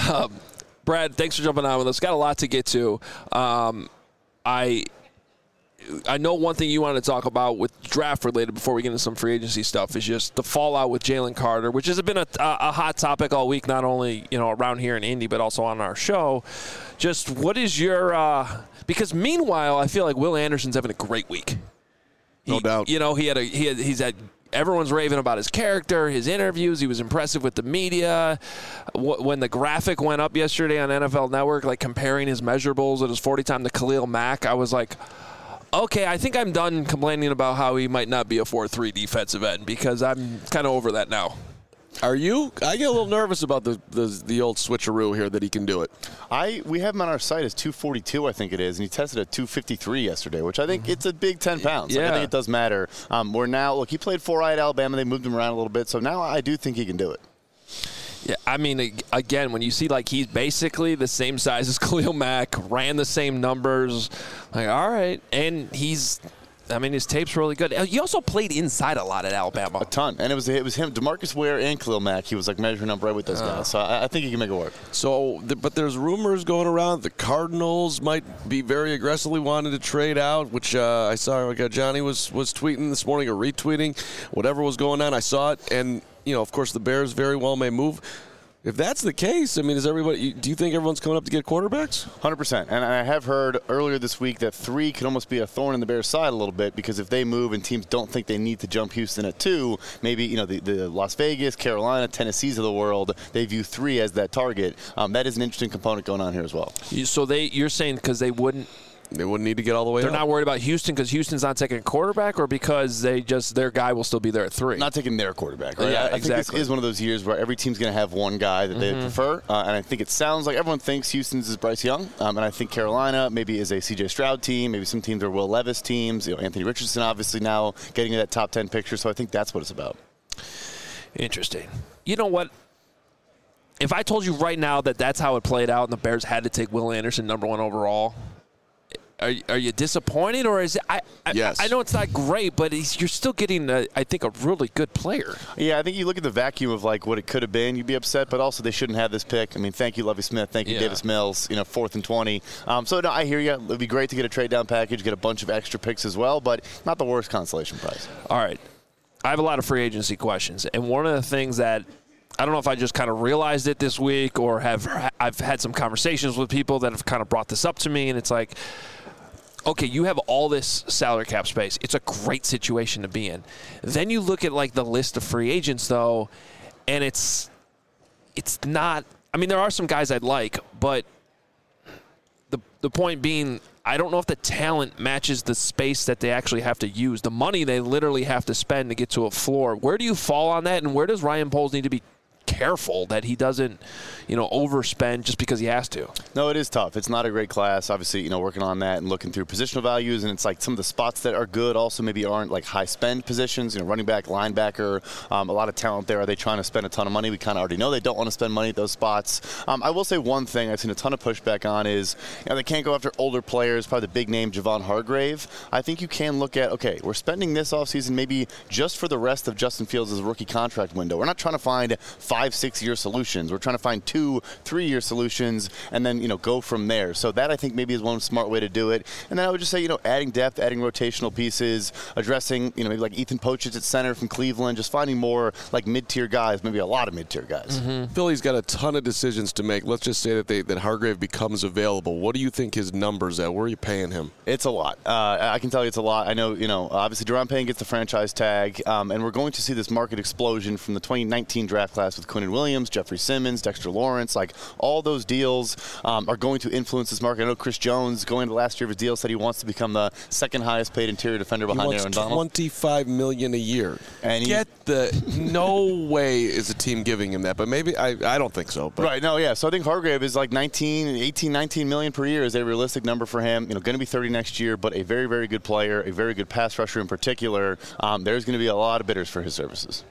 [SPEAKER 1] Brad, thanks for jumping on with us. Got a lot to get to. I know one thing you want to talk about with draft related before we get into some free agency stuff is just the fallout with Jalen Carter, which has been a hot topic all week, not only around here in Indy but also on our show. Just what is your because meanwhile I feel like Will Anderson's having a great week.
[SPEAKER 3] No doubt.
[SPEAKER 1] He's had everyone's raving about his character, his interviews. He was impressive with the media. When the graphic went up yesterday on NFL Network, like comparing his measurables at his 40 time to Khalil Mack, I was like, okay, I think I'm done complaining about how he might not be a 4-3 defensive end because I'm kind of over that now.
[SPEAKER 3] Are you? I get a little nervous about the old switcheroo here that he can do it.
[SPEAKER 8] We have him on our site as 242, I think it is, and he tested at 253 yesterday, which I think it's a big 10 pounds.
[SPEAKER 1] Yeah.
[SPEAKER 8] I think it does matter. We're now, look, he played 4i at Alabama. They moved him around a little bit, so now I do think he can do it.
[SPEAKER 1] Yeah, I mean, again, when you see like he's basically the same size as Khalil Mack, ran the same numbers, like all right, and his tape's really good. He also played inside a lot at Alabama,
[SPEAKER 8] A ton, and it was him, DeMarcus Ware and Khalil Mack. He was like measuring up right with those guys, so I think he can make it work.
[SPEAKER 3] So, but there's rumors going around the Cardinals might be very aggressively wanting to trade out, which I saw like Johnny was tweeting this morning or retweeting, whatever was going on. I saw it, and of course the Bears very well may move. If that's the case, I mean, do you think everyone's coming up to get quarterbacks?
[SPEAKER 8] 100%. And I have heard earlier this week that 3 could almost be a thorn in the Bears' side a little bit because if they move and teams don't think they need to jump Houston at 2, maybe, the Las Vegas, Carolina, Tennessees of the world, they view 3 as that target. That is an interesting component going on here as well.
[SPEAKER 1] So you're saying because they wouldn't
[SPEAKER 3] need to get all the way
[SPEAKER 1] They're
[SPEAKER 3] up.
[SPEAKER 1] not worried about Houston because Houston's not taking a quarterback or because their guy will still be there at 3?
[SPEAKER 8] Not taking their quarterback, right?
[SPEAKER 1] Yeah,
[SPEAKER 8] I
[SPEAKER 1] exactly.
[SPEAKER 8] think this is one of those years where every team's going to have one guy that they prefer. And I think it sounds like everyone thinks Houston's is Bryce Young. And I think Carolina maybe is a C.J. Stroud team. Maybe some teams are Will Levis teams. Anthony Richardson obviously now getting in that top 10 picture. So I think that's what it's about.
[SPEAKER 1] Interesting. You know what? If I told you right now that that's how it played out and the Bears had to take Will Anderson number 1 overall, are you disappointed, or is it?
[SPEAKER 3] Yes.
[SPEAKER 1] I know it's not great, but you're still getting, I think, a really good player.
[SPEAKER 8] Yeah, I think you look at the vacuum of like what it could have been, you'd be upset, but also they shouldn't have this pick. I mean, thank you, Lovie Smith. Thank you, Davis Mills. 4th and 20. So no, I hear you. It'd be great to get a trade down package, get a bunch of extra picks as well, but not the worst consolation prize.
[SPEAKER 1] All right, I have a lot of free agency questions, and one of the things that I don't know if I just kind of realized it this week or I've had some conversations with people that have kind of brought this up to me, and it's like, okay, you have all this salary cap space. It's a great situation to be in. Then you look at like the list of free agents though, and it's not. I mean, there are some guys I'd like, but the point being, I don't know if the talent matches the space that they actually have to use. The money they literally have to spend to get to a floor. Where do you fall on that, and where does Ryan Poles need to be careful that he doesn't, overspend just because he has to?
[SPEAKER 8] No, it is tough. It's not a great class. Obviously, working on that and looking through positional values, and it's like some of the spots that are good also maybe aren't like high spend positions. Running back, linebacker, a lot of talent there. Are they trying to spend a ton of money? We kind of already know they don't want to spend money at those spots. I will say one thing I've seen a ton of pushback on is they can't go after older players. Probably the big name Javon Hargrave. I think you can look at, okay, we're spending this offseason maybe just for the rest of Justin Fields' rookie contract window. We're not trying to find 5-6 year solutions. We're trying to find 2-3 year solutions and then go from there. So that I think maybe is one smart way to do it. And then I would just say adding depth, adding rotational pieces, addressing maybe like Ethan Pochitz at center from Cleveland, just finding more like mid-tier guys, maybe a lot of mid-tier guys.
[SPEAKER 3] Philly's got a ton of decisions to make. Let's just say that Hargrave becomes available. What do you think his numbers at? Where are you paying him?
[SPEAKER 8] It's a lot. I can tell you it's a lot. I know obviously Deron Payne gets the franchise tag, and we're going to see this market explosion from the 2019 draft class with Quinnen Williams, Jeffrey Simmons, Dexter Lawrence. Like all those deals are going to influence this market. I know Chris Jones, going into last year of his deal, said he wants to become the second highest paid interior defender behind Aaron Donald.
[SPEAKER 3] He wants $25 million a year.
[SPEAKER 8] And
[SPEAKER 3] no way is a team giving him that, but maybe I don't think so. But.
[SPEAKER 8] Right, no, yeah. So I think Hargrave is like 19 million per year is a realistic number for him. Going to be 30 next year, but a very, very good player, a very good pass rusher in particular. There's going to be a lot of bidders for his services.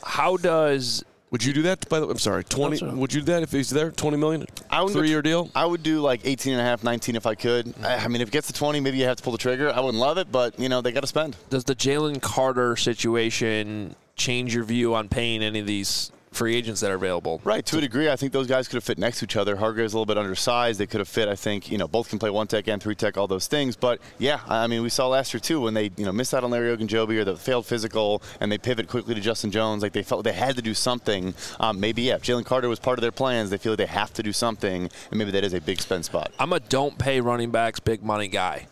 [SPEAKER 3] Would you do that? By the way, I'm sorry. 20. Would you do that if he's there? $20 million. 3-year deal.
[SPEAKER 8] I would do like 18.5, 19 if I could. I mean, if it gets to 20, maybe you have to pull the trigger. I wouldn't love it, but they got to spend.
[SPEAKER 1] Does the Jalen Carter situation change your view on paying any of these free agents that are available.
[SPEAKER 8] Right, to a degree, I think those guys could have fit next to each other. Hargrave's a little bit undersized. They could have fit, I think, both can play 1-tech and 3-tech, all those things. But, yeah, I mean, we saw last year, too, when they, missed out on Larry Ogunjobi or the failed physical, and they pivot quickly to Justin Jones. Like, they felt they had to do something. Maybe, if Jalen Carter was part of their plans, they feel like they have to do something, and maybe that is a big spend spot.
[SPEAKER 1] I'm a don't pay running backs big money guy.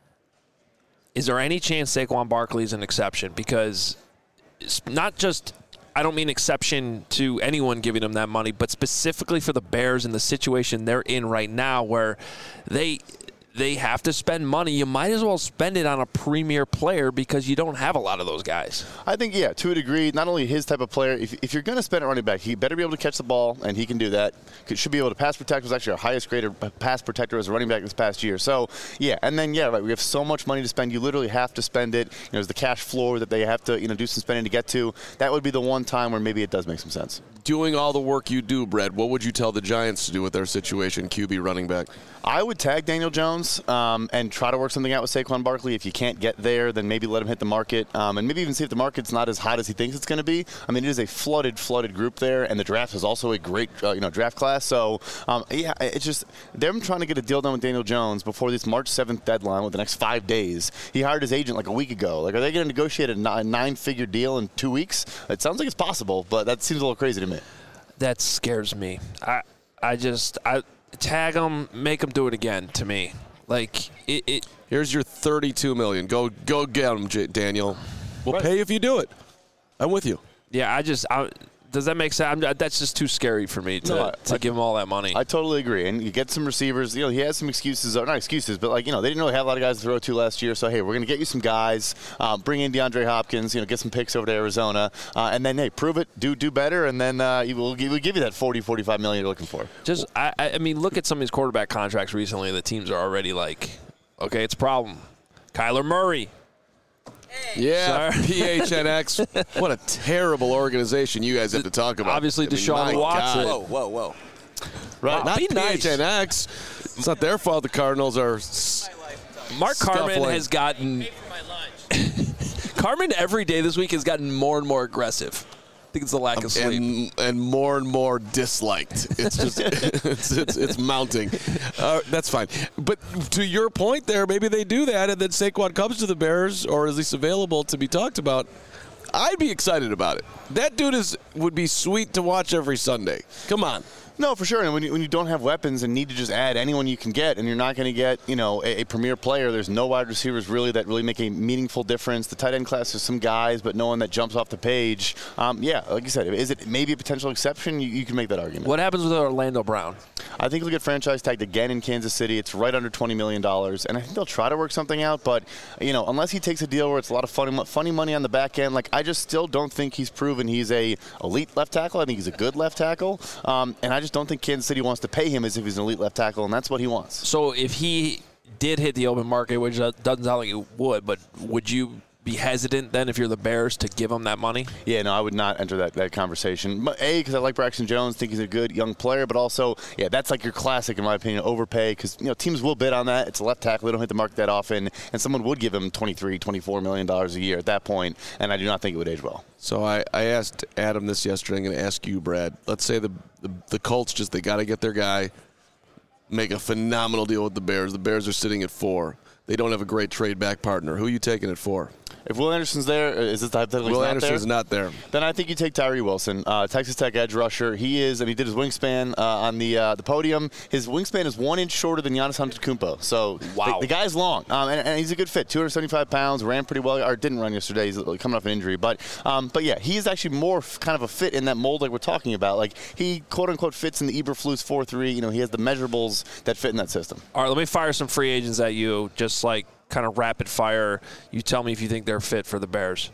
[SPEAKER 1] Is there any chance Saquon Barkley is an exception? Because it's not just – I don't mean exception to anyone giving them that money, but specifically for the Bears and the situation they're in right now where they have to spend money. You might as well spend it on a premier player because you don't have a lot of those guys.
[SPEAKER 8] I think, to a degree, not only his type of player, if you're going to spend a running back, he better be able to catch the ball, and he can do that. Should be able to pass protect. Was actually our highest graded pass protector as a running back this past year. So, and then, right, we have so much money to spend. You literally have to spend it. There's the cash floor that they have to, do some spending to get to. That would be the one time where maybe it does make some sense.
[SPEAKER 3] Doing all the work you do, Brad, what would you tell the Giants to do with their situation, QB running back?
[SPEAKER 8] I would tag Daniel Jones and try to work something out with Saquon Barkley. If you can't get there, then maybe let him hit the market and maybe even see if the market's not as hot as he thinks it's going to be. I mean, it is a flooded group there, and the draft is also a great draft class. So, it's just them trying to get a deal done with Daniel Jones before this March 7th deadline with the next 5 days. He hired his agent like a week ago. Like, are they going to negotiate a 9-figure deal in 2 weeks? It sounds like it's possible, but that seems a little crazy to me.
[SPEAKER 1] That scares me. I tag them, make them do it again to me. Like,
[SPEAKER 3] Here's your $32 million. Go get them, Daniel. We'll pay if you do it. I'm with you.
[SPEAKER 1] Yeah, does that make sense? That's just too scary for me to give him all that money.
[SPEAKER 8] I totally agree. And you get some receivers. He has some excuses. Not excuses, but they didn't really have a lot of guys to throw to last year. So, hey, we're going to get you some guys. Bring in DeAndre Hopkins. Get some picks over to Arizona. And then, hey, prove it. Do better. And then we'll give you that $40-45 million you're looking for.
[SPEAKER 1] I mean, look at some of these quarterback contracts recently. The teams are already like, okay, it's a problem. Kyler Murray.
[SPEAKER 3] Yeah, PHNX. What a terrible organization you guys have to talk about.
[SPEAKER 1] Obviously, Deshaun Watson.
[SPEAKER 2] Whoa.
[SPEAKER 3] Right, not PHNX. It's not their fault the Cardinals are
[SPEAKER 1] Mark Carman has gotten Carman every day this week has gotten more and more aggressive. I think it's the lack of sleep.
[SPEAKER 3] And more disliked. It's just it's mounting. That's fine. But to your point there, maybe they do that, and then Saquon comes to the Bears, or at least available to be talked about. I'd be excited about it. That dude would be sweet to watch every Sunday. Come on.
[SPEAKER 8] No, for sure. And when you don't have weapons and need to just add anyone you can get, and you're not going to get, a premier player, there's no wide receivers really that really make a meaningful difference. The tight end class is some guys, but no one that jumps off the page. Like you said, is it maybe a potential exception? You can make that argument.
[SPEAKER 1] What happens with Orlando Brown?
[SPEAKER 8] I think he'll get franchise tagged again in Kansas City. It's right under $20 million, and I think they'll try to work something out. But, unless he takes a deal where it's a lot of funny money on the back end, I just still don't think he's proven he's a elite left tackle. I think he's a good left tackle, and I just don't think Kansas City wants to pay him as if he's an elite left tackle, and that's what he wants.
[SPEAKER 1] So if he did hit the open market, which doesn't sound like it would, but would you be hesitant then if you're the Bears to give him that money?
[SPEAKER 8] Yeah, no, I would not enter that conversation. But because I like Braxton Jones, think he's a good young player, but also, that's like your classic, in my opinion, overpay, because teams will bid on that. It's a left tackle. They don't hit the market that often, and someone would give him $23, $24 million a year at that point, and I do not think it would age well.
[SPEAKER 3] So I asked Adam this yesterday. I'm going to ask you, Brad. Let's say the Colts they got to get their guy, make a phenomenal deal with the Bears. The Bears are sitting at 4. They don't have a great trade back partner. Who are you taking it for?
[SPEAKER 8] If Will Anderson's there, is this the hypothetical?
[SPEAKER 3] Will Anderson's not there.
[SPEAKER 8] Then I think you take Tyree Wilson, Texas Tech edge rusher. He is, and he did his wingspan on the podium. His wingspan is 1 inch shorter than Giannis Antetokounmpo. So
[SPEAKER 1] wow,
[SPEAKER 8] the guy's long, and he's a good fit. 275 pounds, ran pretty well, or didn't run yesterday. He's coming off an injury, but yeah, he's actually more kind of a fit in that mold like we're talking about. Like he quote unquote fits in the Eberflus 4-3. He has the measurables that fit in that system.
[SPEAKER 1] All right, let me fire some free agents at you, just like kind of rapid fire. You tell me if you think they're fit for the Bears.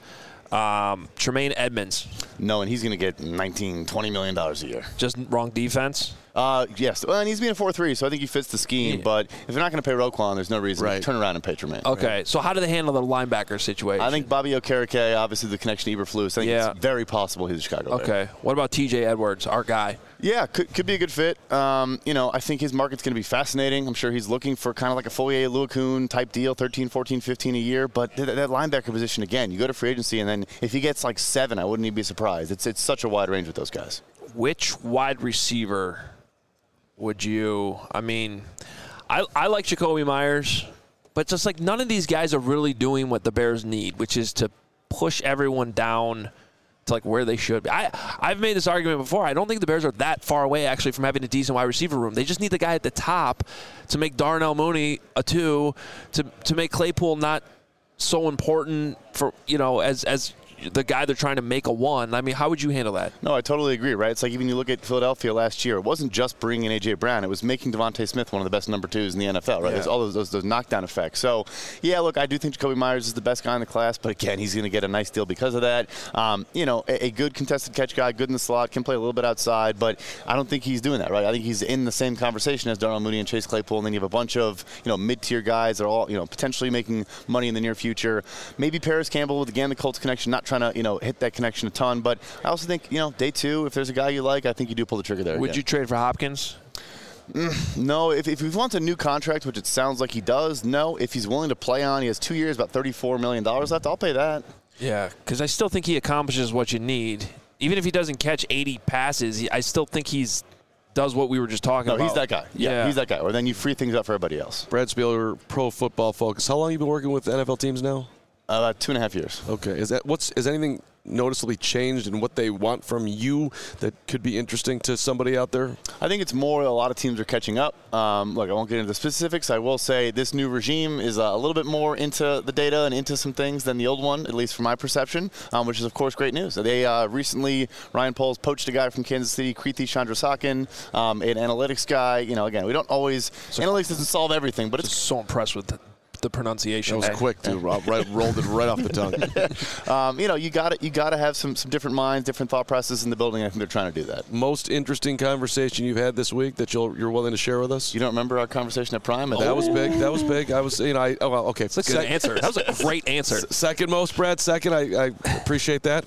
[SPEAKER 1] Tremaine Edmonds.
[SPEAKER 8] No, and he's going to get $19-20 million a year.
[SPEAKER 1] Just wrong defense?
[SPEAKER 8] Yes. Well, and he's being a 4-3, so I think he fits the scheme.
[SPEAKER 1] Yeah.
[SPEAKER 8] But if they're not going to pay Roquan, there's no reason to turn around and pay Tremaine.
[SPEAKER 1] Okay, so how do they handle the linebacker situation?
[SPEAKER 8] I think Bobby Okereke, obviously the connection to Eberflus, I think it's very possible he's a Chicago Bear.
[SPEAKER 1] Okay. What about T.J. Edwards, our guy?
[SPEAKER 8] Yeah, could be a good fit. I think his market's going to be fascinating. I'm sure he's looking for kind of like a Foyer Luakun type deal, 13, 14, 15 a year. But that linebacker position, again, you go to free agency, and then if he gets like 7, I wouldn't even be surprised. It's such a wide range with those guys.
[SPEAKER 1] Which wide receiver would you – I mean, I like Jacoby Myers, but just like none of these guys are really doing what the Bears need, which is to push everyone down – to like where they should be. I've made this argument before. I don't think the Bears are that far away actually from having a decent wide receiver room. They just need the guy at the top to make Darnell Mooney a 2, to make Claypool not so important for as the guy they're trying to make a 1. I mean, how would you handle that?
[SPEAKER 8] No, I totally agree, right? It's like even you look at Philadelphia last year, it wasn't just bringing in A.J. Brown. It was making Devontae Smith one of the best number 2s in the NFL, right? Yeah. There's all those knockdown effects. So, yeah, look, I do think Jacoby Myers is the best guy in the class, but again, he's going to get a nice deal because of that. A good contested catch guy, good in the slot, can play a little bit outside, but I don't think he's doing that, right? I think he's in the same conversation as Darnell Mooney and Chase Claypool, and then you have a bunch of, mid-tier guys that are all, potentially making money in the near future. Maybe Paris Campbell with, again, the Colts connection, not trying to, hit that connection a ton, but I also think day 2, if there's a guy you like, I think you do pull the trigger there.
[SPEAKER 1] Would you trade for Hopkins?
[SPEAKER 8] No, if he wants a new contract, which it sounds like he does, no. If he's willing to play on, he has 2 years, about $34 million left, I'll pay that.
[SPEAKER 1] Yeah, because I still think he accomplishes what you need. Even if he doesn't catch 80 passes, I still think does what we were just talking about.
[SPEAKER 8] No, he's that guy. Yeah, he's that guy. Or then you free things up for everybody else.
[SPEAKER 3] Brad Spieler, Pro Football Focus. How long have you been working with NFL teams now?
[SPEAKER 8] About 2.5 years.
[SPEAKER 3] Okay. Is anything noticeably changed in what they want from you that could be interesting to somebody out there?
[SPEAKER 8] I think it's more a lot of teams are catching up. Look, I won't get into the specifics. I will say this new regime is a little bit more into the data and into some things than the old one, at least from my perception, which is, of course, great news. They recently, Ryan Poles poached a guy from Kansas City, Kriti Chandrasekhan, an analytics guy. Again, we don't always – analytics doesn't solve everything, but it's –
[SPEAKER 1] so impressed with the pronunciation.
[SPEAKER 3] That was quick, too. Rolled it right off the tongue.
[SPEAKER 8] You got to have some different minds, different thought processes in the building. I think they're trying to do that.
[SPEAKER 3] Most interesting conversation you've had this week that you're willing to share with us?
[SPEAKER 8] You don't remember our conversation at Prime?
[SPEAKER 3] That was big. That was big. I was, okay.
[SPEAKER 1] That's a good answer. That was a great answer.
[SPEAKER 3] Second most, Brad. Second. I appreciate that.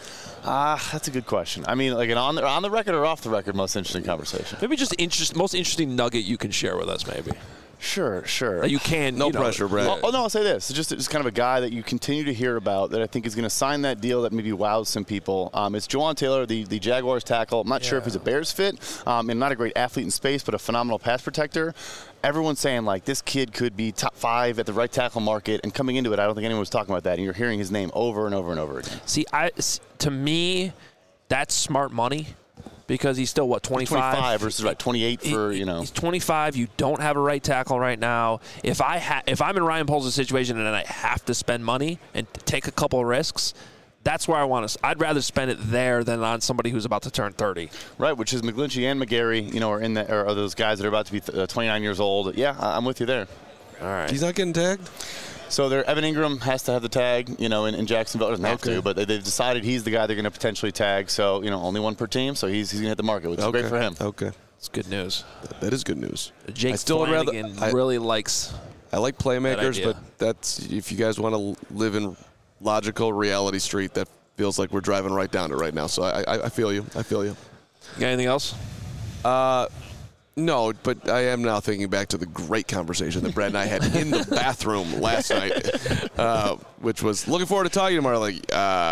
[SPEAKER 8] That's a good question. I mean, like on the record or off the record, most interesting conversation.
[SPEAKER 1] Maybe just most interesting nugget you can share with us, maybe.
[SPEAKER 8] Sure.
[SPEAKER 1] That you can.
[SPEAKER 3] No pressure, Brad.
[SPEAKER 8] No, I'll say this. It's just kind of a guy that you continue to hear about that I think is going to sign that deal that maybe wows some people. It's Jawan Taylor, the Jaguars tackle. I'm not sure if he's a Bears fit, and not a great athlete in space, but a phenomenal pass protector. Everyone's saying, like, this kid could be top 5 at the right tackle market, and coming into it, I don't think anyone was talking about that, and you're hearing his name over and over and over again.
[SPEAKER 1] See, to me, that's smart money. Because he's still, 25?
[SPEAKER 8] 25 versus 28 for,
[SPEAKER 1] He's 25. You don't have a right tackle right now. If I'm in Ryan Poles' situation and I have to spend money and take a couple of risks, that's where I want to. I'd rather spend it there than on somebody who's about to turn 30.
[SPEAKER 8] Right, which is McGlinchey and McGarry, are those guys that are about to be 29 years old. Yeah, I'm with you there.
[SPEAKER 1] All right.
[SPEAKER 3] He's not getting tagged?
[SPEAKER 8] So Evan Ingram has to have the tag, in Jacksonville. Doesn't have to, but they've decided he's the guy they're going to potentially tag. So, only one per team, so he's going to hit the market, which is great for him.
[SPEAKER 3] Okay.
[SPEAKER 1] It's good news.
[SPEAKER 3] That is good news.
[SPEAKER 1] Jake Flanagan really likes.
[SPEAKER 3] I like playmakers, but that's if you guys want to live in logical reality street, that feels like we're driving right down to right now. So I feel you. You
[SPEAKER 1] got anything else?
[SPEAKER 3] No, but I am now thinking back to the great conversation that Brad and I had in the bathroom last night, which was looking forward to talking tomorrow. Like,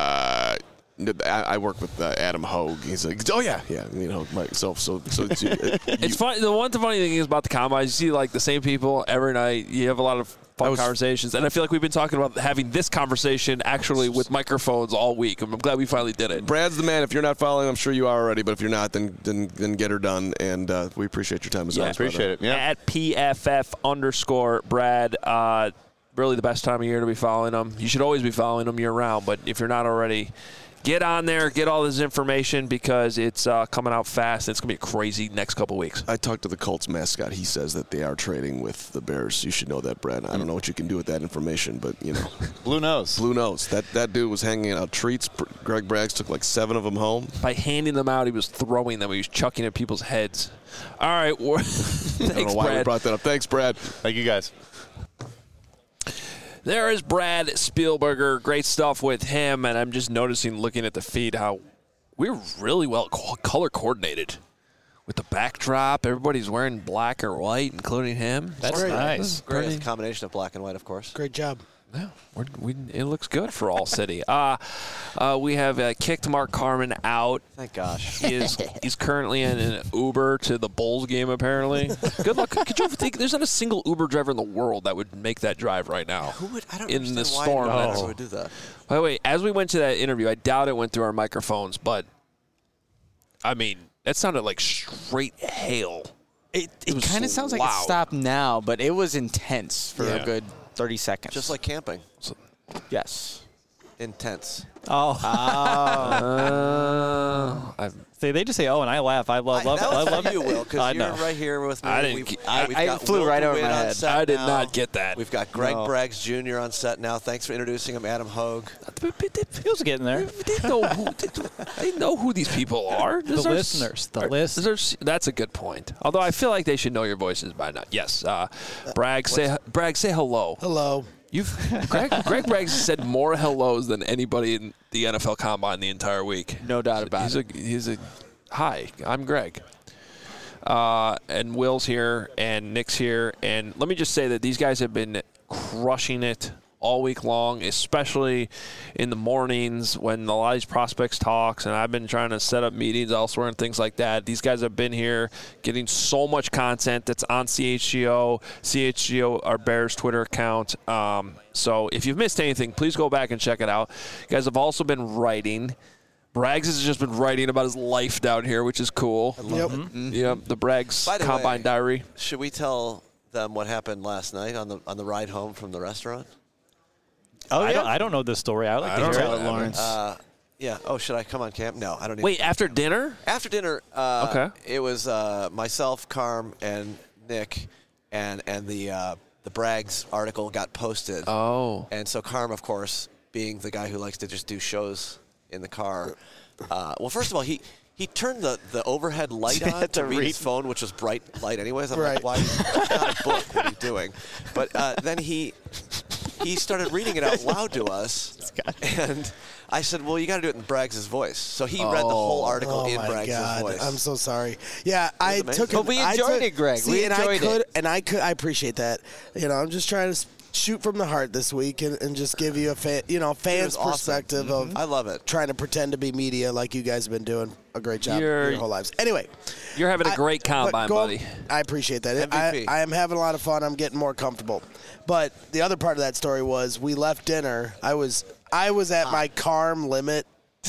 [SPEAKER 3] I work with Adam Hogue. He's like, oh yeah, so it's
[SPEAKER 1] funny. The one funny thing is about the combine, you see like the same people every night. You have a lot of fun conversations, and I feel like we've been talking about having this conversation actually with microphones all week. I'm glad we finally did it.
[SPEAKER 3] Brad's the man. If you're not following, I'm sure you are already. But if you're not, then get her done. And we appreciate your time as always.
[SPEAKER 8] Appreciate it. Yeah.
[SPEAKER 1] At PFF_Brad. Really the best time of year to be following them. You should always be following them year round. But if you're not already, get on there, get all this information because it's coming out fast. It's going to be a crazy next couple weeks.
[SPEAKER 3] I talked to the Colts mascot. He says that they are trading with the Bears. You should know that, Brad. I don't know what you can do with that information, but,
[SPEAKER 8] Blue nose.
[SPEAKER 3] Blue nose. That dude was hanging out treats. Greg Braggs took like 7 of them home.
[SPEAKER 1] By handing them out, he was throwing them. He was chucking at people's heads. All right. Thanks,
[SPEAKER 3] I don't know why
[SPEAKER 1] Brad.
[SPEAKER 3] we brought that up. Thanks, Brad.
[SPEAKER 8] Thank you, guys.
[SPEAKER 1] There is Brad Spielberger. Great stuff with him. And I'm just noticing, looking at the feed, how we're really well color coordinated with the backdrop. Everybody's wearing black or white, including him.
[SPEAKER 5] That's nice.
[SPEAKER 2] Great. It's a combination of black and white, of course.
[SPEAKER 9] Great job.
[SPEAKER 1] Yeah, it looks good for All City. We have kicked Mark Carman out.
[SPEAKER 2] Thank gosh.
[SPEAKER 1] He's currently in an Uber to the Bulls game, apparently. Good luck. Could you think there's not a single Uber driver in the world that would make that drive right now?
[SPEAKER 2] Who would? I don't
[SPEAKER 1] in the
[SPEAKER 2] understand
[SPEAKER 1] storm.
[SPEAKER 2] why anyone would do that.
[SPEAKER 1] By the way, as we went to that interview, I doubt it went through our microphones, but I mean, that sounded like straight hail.
[SPEAKER 4] It
[SPEAKER 1] was
[SPEAKER 4] kind of sounds like
[SPEAKER 1] loud.
[SPEAKER 4] it stopped now, but it was intense for a good 30 seconds.
[SPEAKER 2] Just like camping.
[SPEAKER 4] yes.
[SPEAKER 2] Intense.
[SPEAKER 5] See, they just say, "Oh," and I laugh. I love it. I love
[SPEAKER 2] you, Will,
[SPEAKER 5] I
[SPEAKER 2] because
[SPEAKER 5] know.
[SPEAKER 2] you're right here with me.
[SPEAKER 1] I didn't
[SPEAKER 2] We've
[SPEAKER 1] get-
[SPEAKER 4] I
[SPEAKER 2] got
[SPEAKER 4] flew
[SPEAKER 2] Will
[SPEAKER 4] right over
[SPEAKER 2] DeWitt
[SPEAKER 4] my
[SPEAKER 2] on
[SPEAKER 4] head.
[SPEAKER 2] set
[SPEAKER 1] I did
[SPEAKER 2] now.
[SPEAKER 1] not get that.
[SPEAKER 2] We've got Greg
[SPEAKER 4] No.
[SPEAKER 2] Braggs Jr. on set now. Thanks for introducing him, Adam Hogue.
[SPEAKER 5] He was getting there.
[SPEAKER 1] They know who these people are.
[SPEAKER 5] The listeners. The listeners.
[SPEAKER 1] That's a good point. Although I feel like they should know your voices by now. Yes. Bragg, say hello.
[SPEAKER 9] Hello.
[SPEAKER 1] Greg Braggs said more hellos than anybody in the NFL Combine the entire week.
[SPEAKER 4] No doubt about it.
[SPEAKER 1] He's a hi. I'm Greg. And Will's here, and Nick's here, and let me just say that these guys have been crushing it all week long, especially in the mornings when a lot of these prospects talks, and I've been trying to set up meetings elsewhere and things like that. These guys have been here getting so much content that's on CHGO, our Bears Twitter account. So if you've missed anything, please go back and check it out. You guys have also been writing. Braggs has just been writing about his life down here, which is cool.
[SPEAKER 9] Yep.
[SPEAKER 1] Yep, the Braggs
[SPEAKER 2] By the
[SPEAKER 1] Combine
[SPEAKER 2] way,
[SPEAKER 1] Diary.
[SPEAKER 2] Should we tell them what happened last night on the ride home from the restaurant?
[SPEAKER 4] Oh,
[SPEAKER 5] I don't know this story. I like to hear
[SPEAKER 4] Tell
[SPEAKER 5] it.
[SPEAKER 4] it, Lawrence.
[SPEAKER 2] Yeah. Oh, should I come on camp? No, I don't need
[SPEAKER 1] Wait, after dinner?
[SPEAKER 2] After dinner,
[SPEAKER 1] Okay.
[SPEAKER 2] it was myself, Carm, and Nick, and the Braggs article got posted.
[SPEAKER 1] Oh.
[SPEAKER 2] And so Carm, of course, being the guy who likes to just do shows in the car. Well, first of all, he turned the overhead light on to read his phone, which was bright light anyways. I'm like, why? It's not a book. What are you doing? But then he started reading it out loud to us, and I said, well, you got to do it in Braggs' voice. So he read the whole article in Braggs' voice.
[SPEAKER 9] I'm so sorry. Yeah, I took it.
[SPEAKER 4] But we enjoyed it, Greg.
[SPEAKER 9] See,
[SPEAKER 4] We
[SPEAKER 9] and
[SPEAKER 4] enjoyed it.
[SPEAKER 9] And I appreciate that. I'm just trying to shoot from the heart this week and just give you a fan's
[SPEAKER 2] awesome.
[SPEAKER 9] perspective of
[SPEAKER 2] I love it.
[SPEAKER 9] trying to pretend to be media like you guys have been doing a great job your whole lives. Anyway.
[SPEAKER 1] You're having a great combine, buddy.
[SPEAKER 9] I appreciate that.
[SPEAKER 2] MVP.
[SPEAKER 9] I am having a lot of fun. I'm getting more comfortable. But the other part of that story was we left dinner. I was at my Carm limit.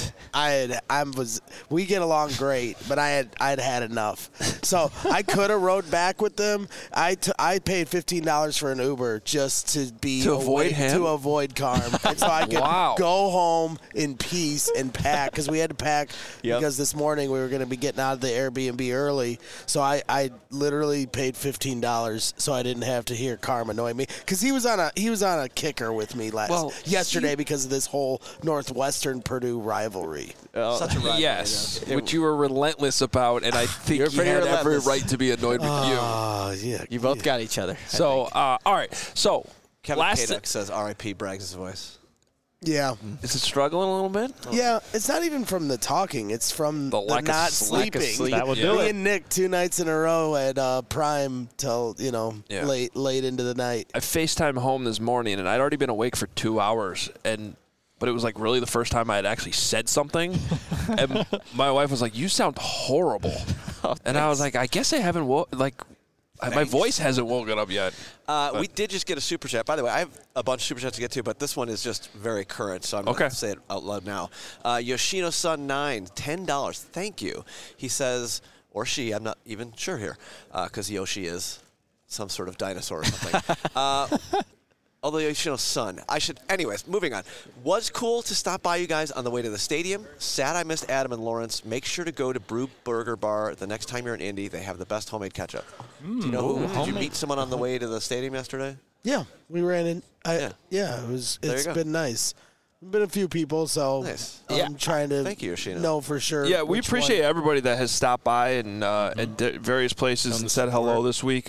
[SPEAKER 9] We get along great, but I'd had enough. So I could have rode back with them. I paid $15 for an Uber just to
[SPEAKER 1] avoid him?
[SPEAKER 9] to avoid Carm, and so I could
[SPEAKER 1] Wow.
[SPEAKER 9] go home in peace and pack because we had to pack because this morning we were going to be getting out of the Airbnb early. So I literally paid $15 so I didn't have to hear Carm annoy me because he was on a kicker with me yesterday because of this whole Northwestern Purdue rivalry.
[SPEAKER 2] Such a rivalry.
[SPEAKER 1] Yes, which you were relentless about, and I think
[SPEAKER 4] You're
[SPEAKER 1] you
[SPEAKER 4] pretty
[SPEAKER 1] had every
[SPEAKER 4] relentless.
[SPEAKER 1] right to be annoyed with you.
[SPEAKER 9] Oh, yeah.
[SPEAKER 4] You both got each other.
[SPEAKER 1] So, all right. So,
[SPEAKER 2] Kevin
[SPEAKER 1] last
[SPEAKER 2] Kaduk says R.I.P. Braggs' voice.
[SPEAKER 9] Yeah.
[SPEAKER 1] is it struggling a little bit?
[SPEAKER 9] Yeah, it's not even from the talking. It's from
[SPEAKER 1] The lack of
[SPEAKER 9] not
[SPEAKER 1] sleep.
[SPEAKER 9] sleeping.
[SPEAKER 5] That would
[SPEAKER 1] Yeah.
[SPEAKER 5] do
[SPEAKER 9] Me
[SPEAKER 5] it.
[SPEAKER 9] and Nick 2 nights in a row at Prime till,
[SPEAKER 1] Yeah.
[SPEAKER 9] late into the night.
[SPEAKER 1] I FaceTime home this morning, and I'd already been awake for 2 hours, but it was like really the first time I had actually said something. And my wife was like, "You sound horrible," and I was like, "I guess I haven't my voice hasn't woken up yet."
[SPEAKER 2] We did just get a super chat. By the way, I have a bunch of super chats to get to, but this one is just very current, so I'm going to say it out loud now. Yoshino Sun 9, $10. Thank you. He says, or she, I'm not even sure here, because Yoshi is some sort of dinosaur or something. Although, son. Anyways, moving on. Was cool to stop by you guys on the way to the stadium. Sad I missed Adam and Lawrence. Make sure to go to Brew Burger Bar the next time you're in Indy. They have the best homemade ketchup. Do you know who? Did you meet someone on the way to the stadium yesterday?
[SPEAKER 9] Yeah, we ran in. It's been nice. Been a few people, so
[SPEAKER 2] nice.
[SPEAKER 9] I'm trying to
[SPEAKER 2] Thank you, Yoshino.
[SPEAKER 9] know for sure.
[SPEAKER 1] Yeah, we appreciate everybody that has stopped by and at various places and said hello this week.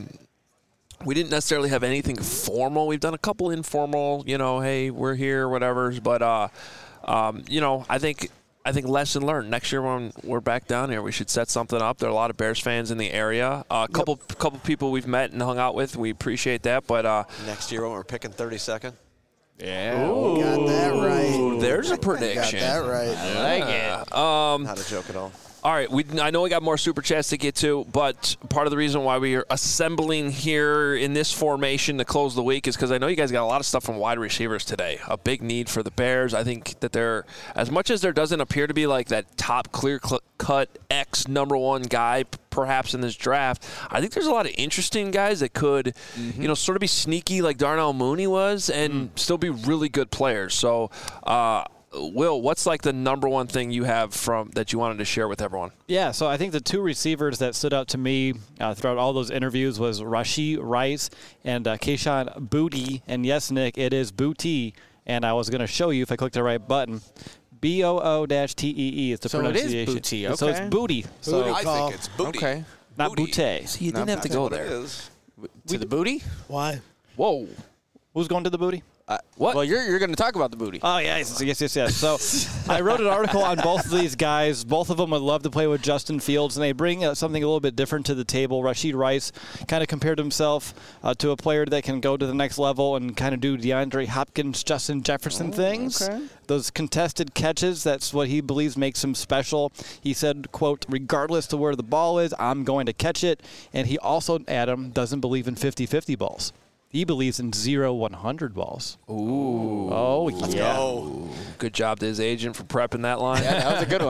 [SPEAKER 1] We didn't necessarily have anything formal. We've done a couple informal, hey, we're here, whatever. But, I think lesson learned. Next year when we're back down here, we should set something up. There are a lot of Bears fans in the area. A couple people we've met and hung out with. We appreciate that. But
[SPEAKER 2] next year when we're picking 32nd.
[SPEAKER 1] Yeah.
[SPEAKER 9] Ooh, got that right.
[SPEAKER 1] There's a prediction.
[SPEAKER 9] Got that right.
[SPEAKER 4] I like it.
[SPEAKER 2] Not a joke at all.
[SPEAKER 1] All right, I know we got more Super Chats to get to, but part of the reason why we are assembling here in this formation to close the week is because I know you guys got a lot of stuff from wide receivers today. A big need for the Bears. I think that they're, as much as there doesn't appear to be like that top clear-cut X number one guy perhaps in this draft, I think there's a lot of interesting guys that could, sort of be sneaky like Darnell Mooney was and still be really good players. So, Will, what's like the number one thing you have that you wanted to share with everyone?
[SPEAKER 10] Yeah, so I think the two receivers that stood out to me throughout all those interviews was Rashee Rice and Kayshon Boutte. And yes, Nick, it is Boutte. And I was going to show you if I click the right button. B-O-O-T-E-E is the pronunciation.
[SPEAKER 4] So it is Boutte, okay.
[SPEAKER 10] So it's Boutte. So
[SPEAKER 2] I think it's Booty.
[SPEAKER 4] Okay.
[SPEAKER 10] not Boutte.
[SPEAKER 1] See, you didn't have to go there.
[SPEAKER 4] To the booty?
[SPEAKER 9] Why?
[SPEAKER 1] Whoa.
[SPEAKER 10] Who's going to the booty?
[SPEAKER 1] What?
[SPEAKER 4] Well, you're going to talk about the booty.
[SPEAKER 10] Oh, yes. So I wrote an article on both of these guys. Both of them would love to play with Justin Fields, and they bring something a little bit different to the table. Rashee Rice kind of compared himself to a player that can go to the next level and kind of do DeAndre Hopkins, Justin Jefferson things.
[SPEAKER 4] Okay.
[SPEAKER 10] Those contested catches, that's what he believes makes him special. He said, quote, regardless to where the ball is, I'm going to catch it. And he also, Adam, doesn't believe in 50-50 balls. He believes in 0-100 balls.
[SPEAKER 1] Ooh.
[SPEAKER 10] Oh,
[SPEAKER 1] Let's
[SPEAKER 10] yeah.
[SPEAKER 1] go. Good job to his agent for prepping that line.
[SPEAKER 4] Yeah, that was a good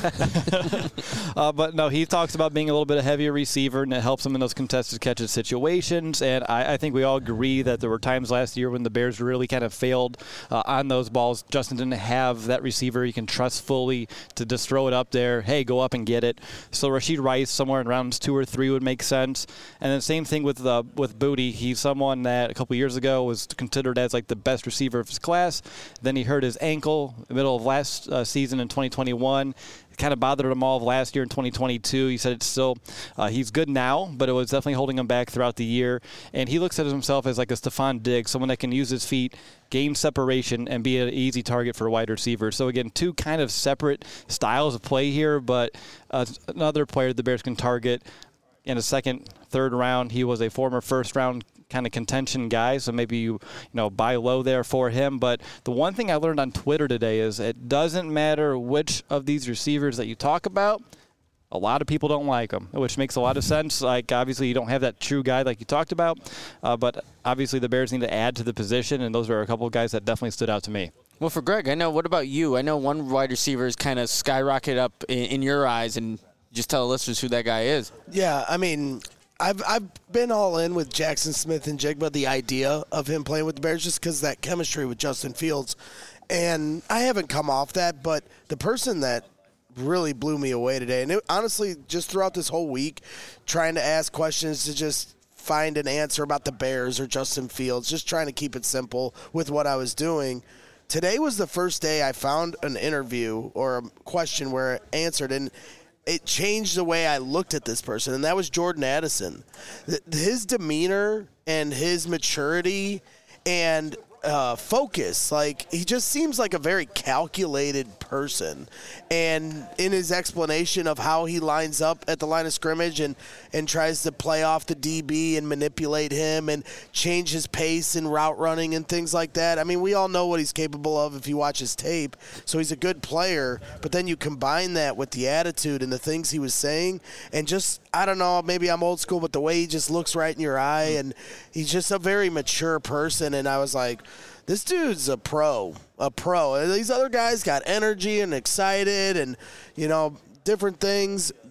[SPEAKER 4] one.
[SPEAKER 10] But no, he talks about being a little bit of a heavier receiver, and it helps him in those contested catches situations. And I think we all agree that there were times last year when the Bears really kind of failed on those balls. Justin didn't have that receiver you can trust fully to just throw it up there. Hey, go up and get it. So Rashee Rice, somewhere in rounds 2 or 3 would make sense. And then same thing with Boutte. He's someone that a couple years ago was considered as like the best receiver of his class. Then he hurt his ankle in the middle of last season in 2021. It kind of bothered him all of last year in 2022. He said it's still he's good now, but it was definitely holding him back throughout the year. And he looks at himself as like a Stephon Diggs, someone that can use his feet, gain separation, and be an easy target for a wide receiver. So again, two kind of separate styles of play here, but another player the Bears can target in a second, third round. He was a former first-round kind of contention guy, so maybe you buy low there for him. But the one thing I learned on Twitter today is it doesn't matter which of these receivers that you talk about, a lot of people don't like them, which makes a lot of sense. Like, obviously, you don't have that true guy like you talked about, but obviously the Bears need to add to the position, and those are a couple of guys that definitely stood out to me.
[SPEAKER 4] Well, for Greg, I know. What about you? I know one wide receiver is kind of skyrocketed up in your eyes, and just tell the listeners who that guy is.
[SPEAKER 9] Yeah, I mean, I've been all in with Jackson Smith-Njigba, the idea of him playing with the Bears, just because that chemistry with Justin Fields. And I haven't come off that, but the person that really blew me away today, and honestly, just throughout this whole week, trying to ask questions to just find an answer about the Bears or Justin Fields, just trying to keep it simple with what I was doing. Today was the first day I found an interview or a question where it answered, and it changed the way I looked at this person, and that was Jordan Addison. His demeanor and his maturity and focus, like, he just seems like a very calculated person. And in his explanation of how he lines up at the line of scrimmage and tries to play off the DB and manipulate him and change his pace and route running and things like that. I mean, we all know what he's capable of if you watch his tape. So he's a good player, but then you combine that with the attitude and the things he was saying, and just, I don't know, maybe I'm old school, but the way he just looks right in your eye, and he's just a very mature person. And I was like, this dude's a pro. These other guys got energy and excited and, different things.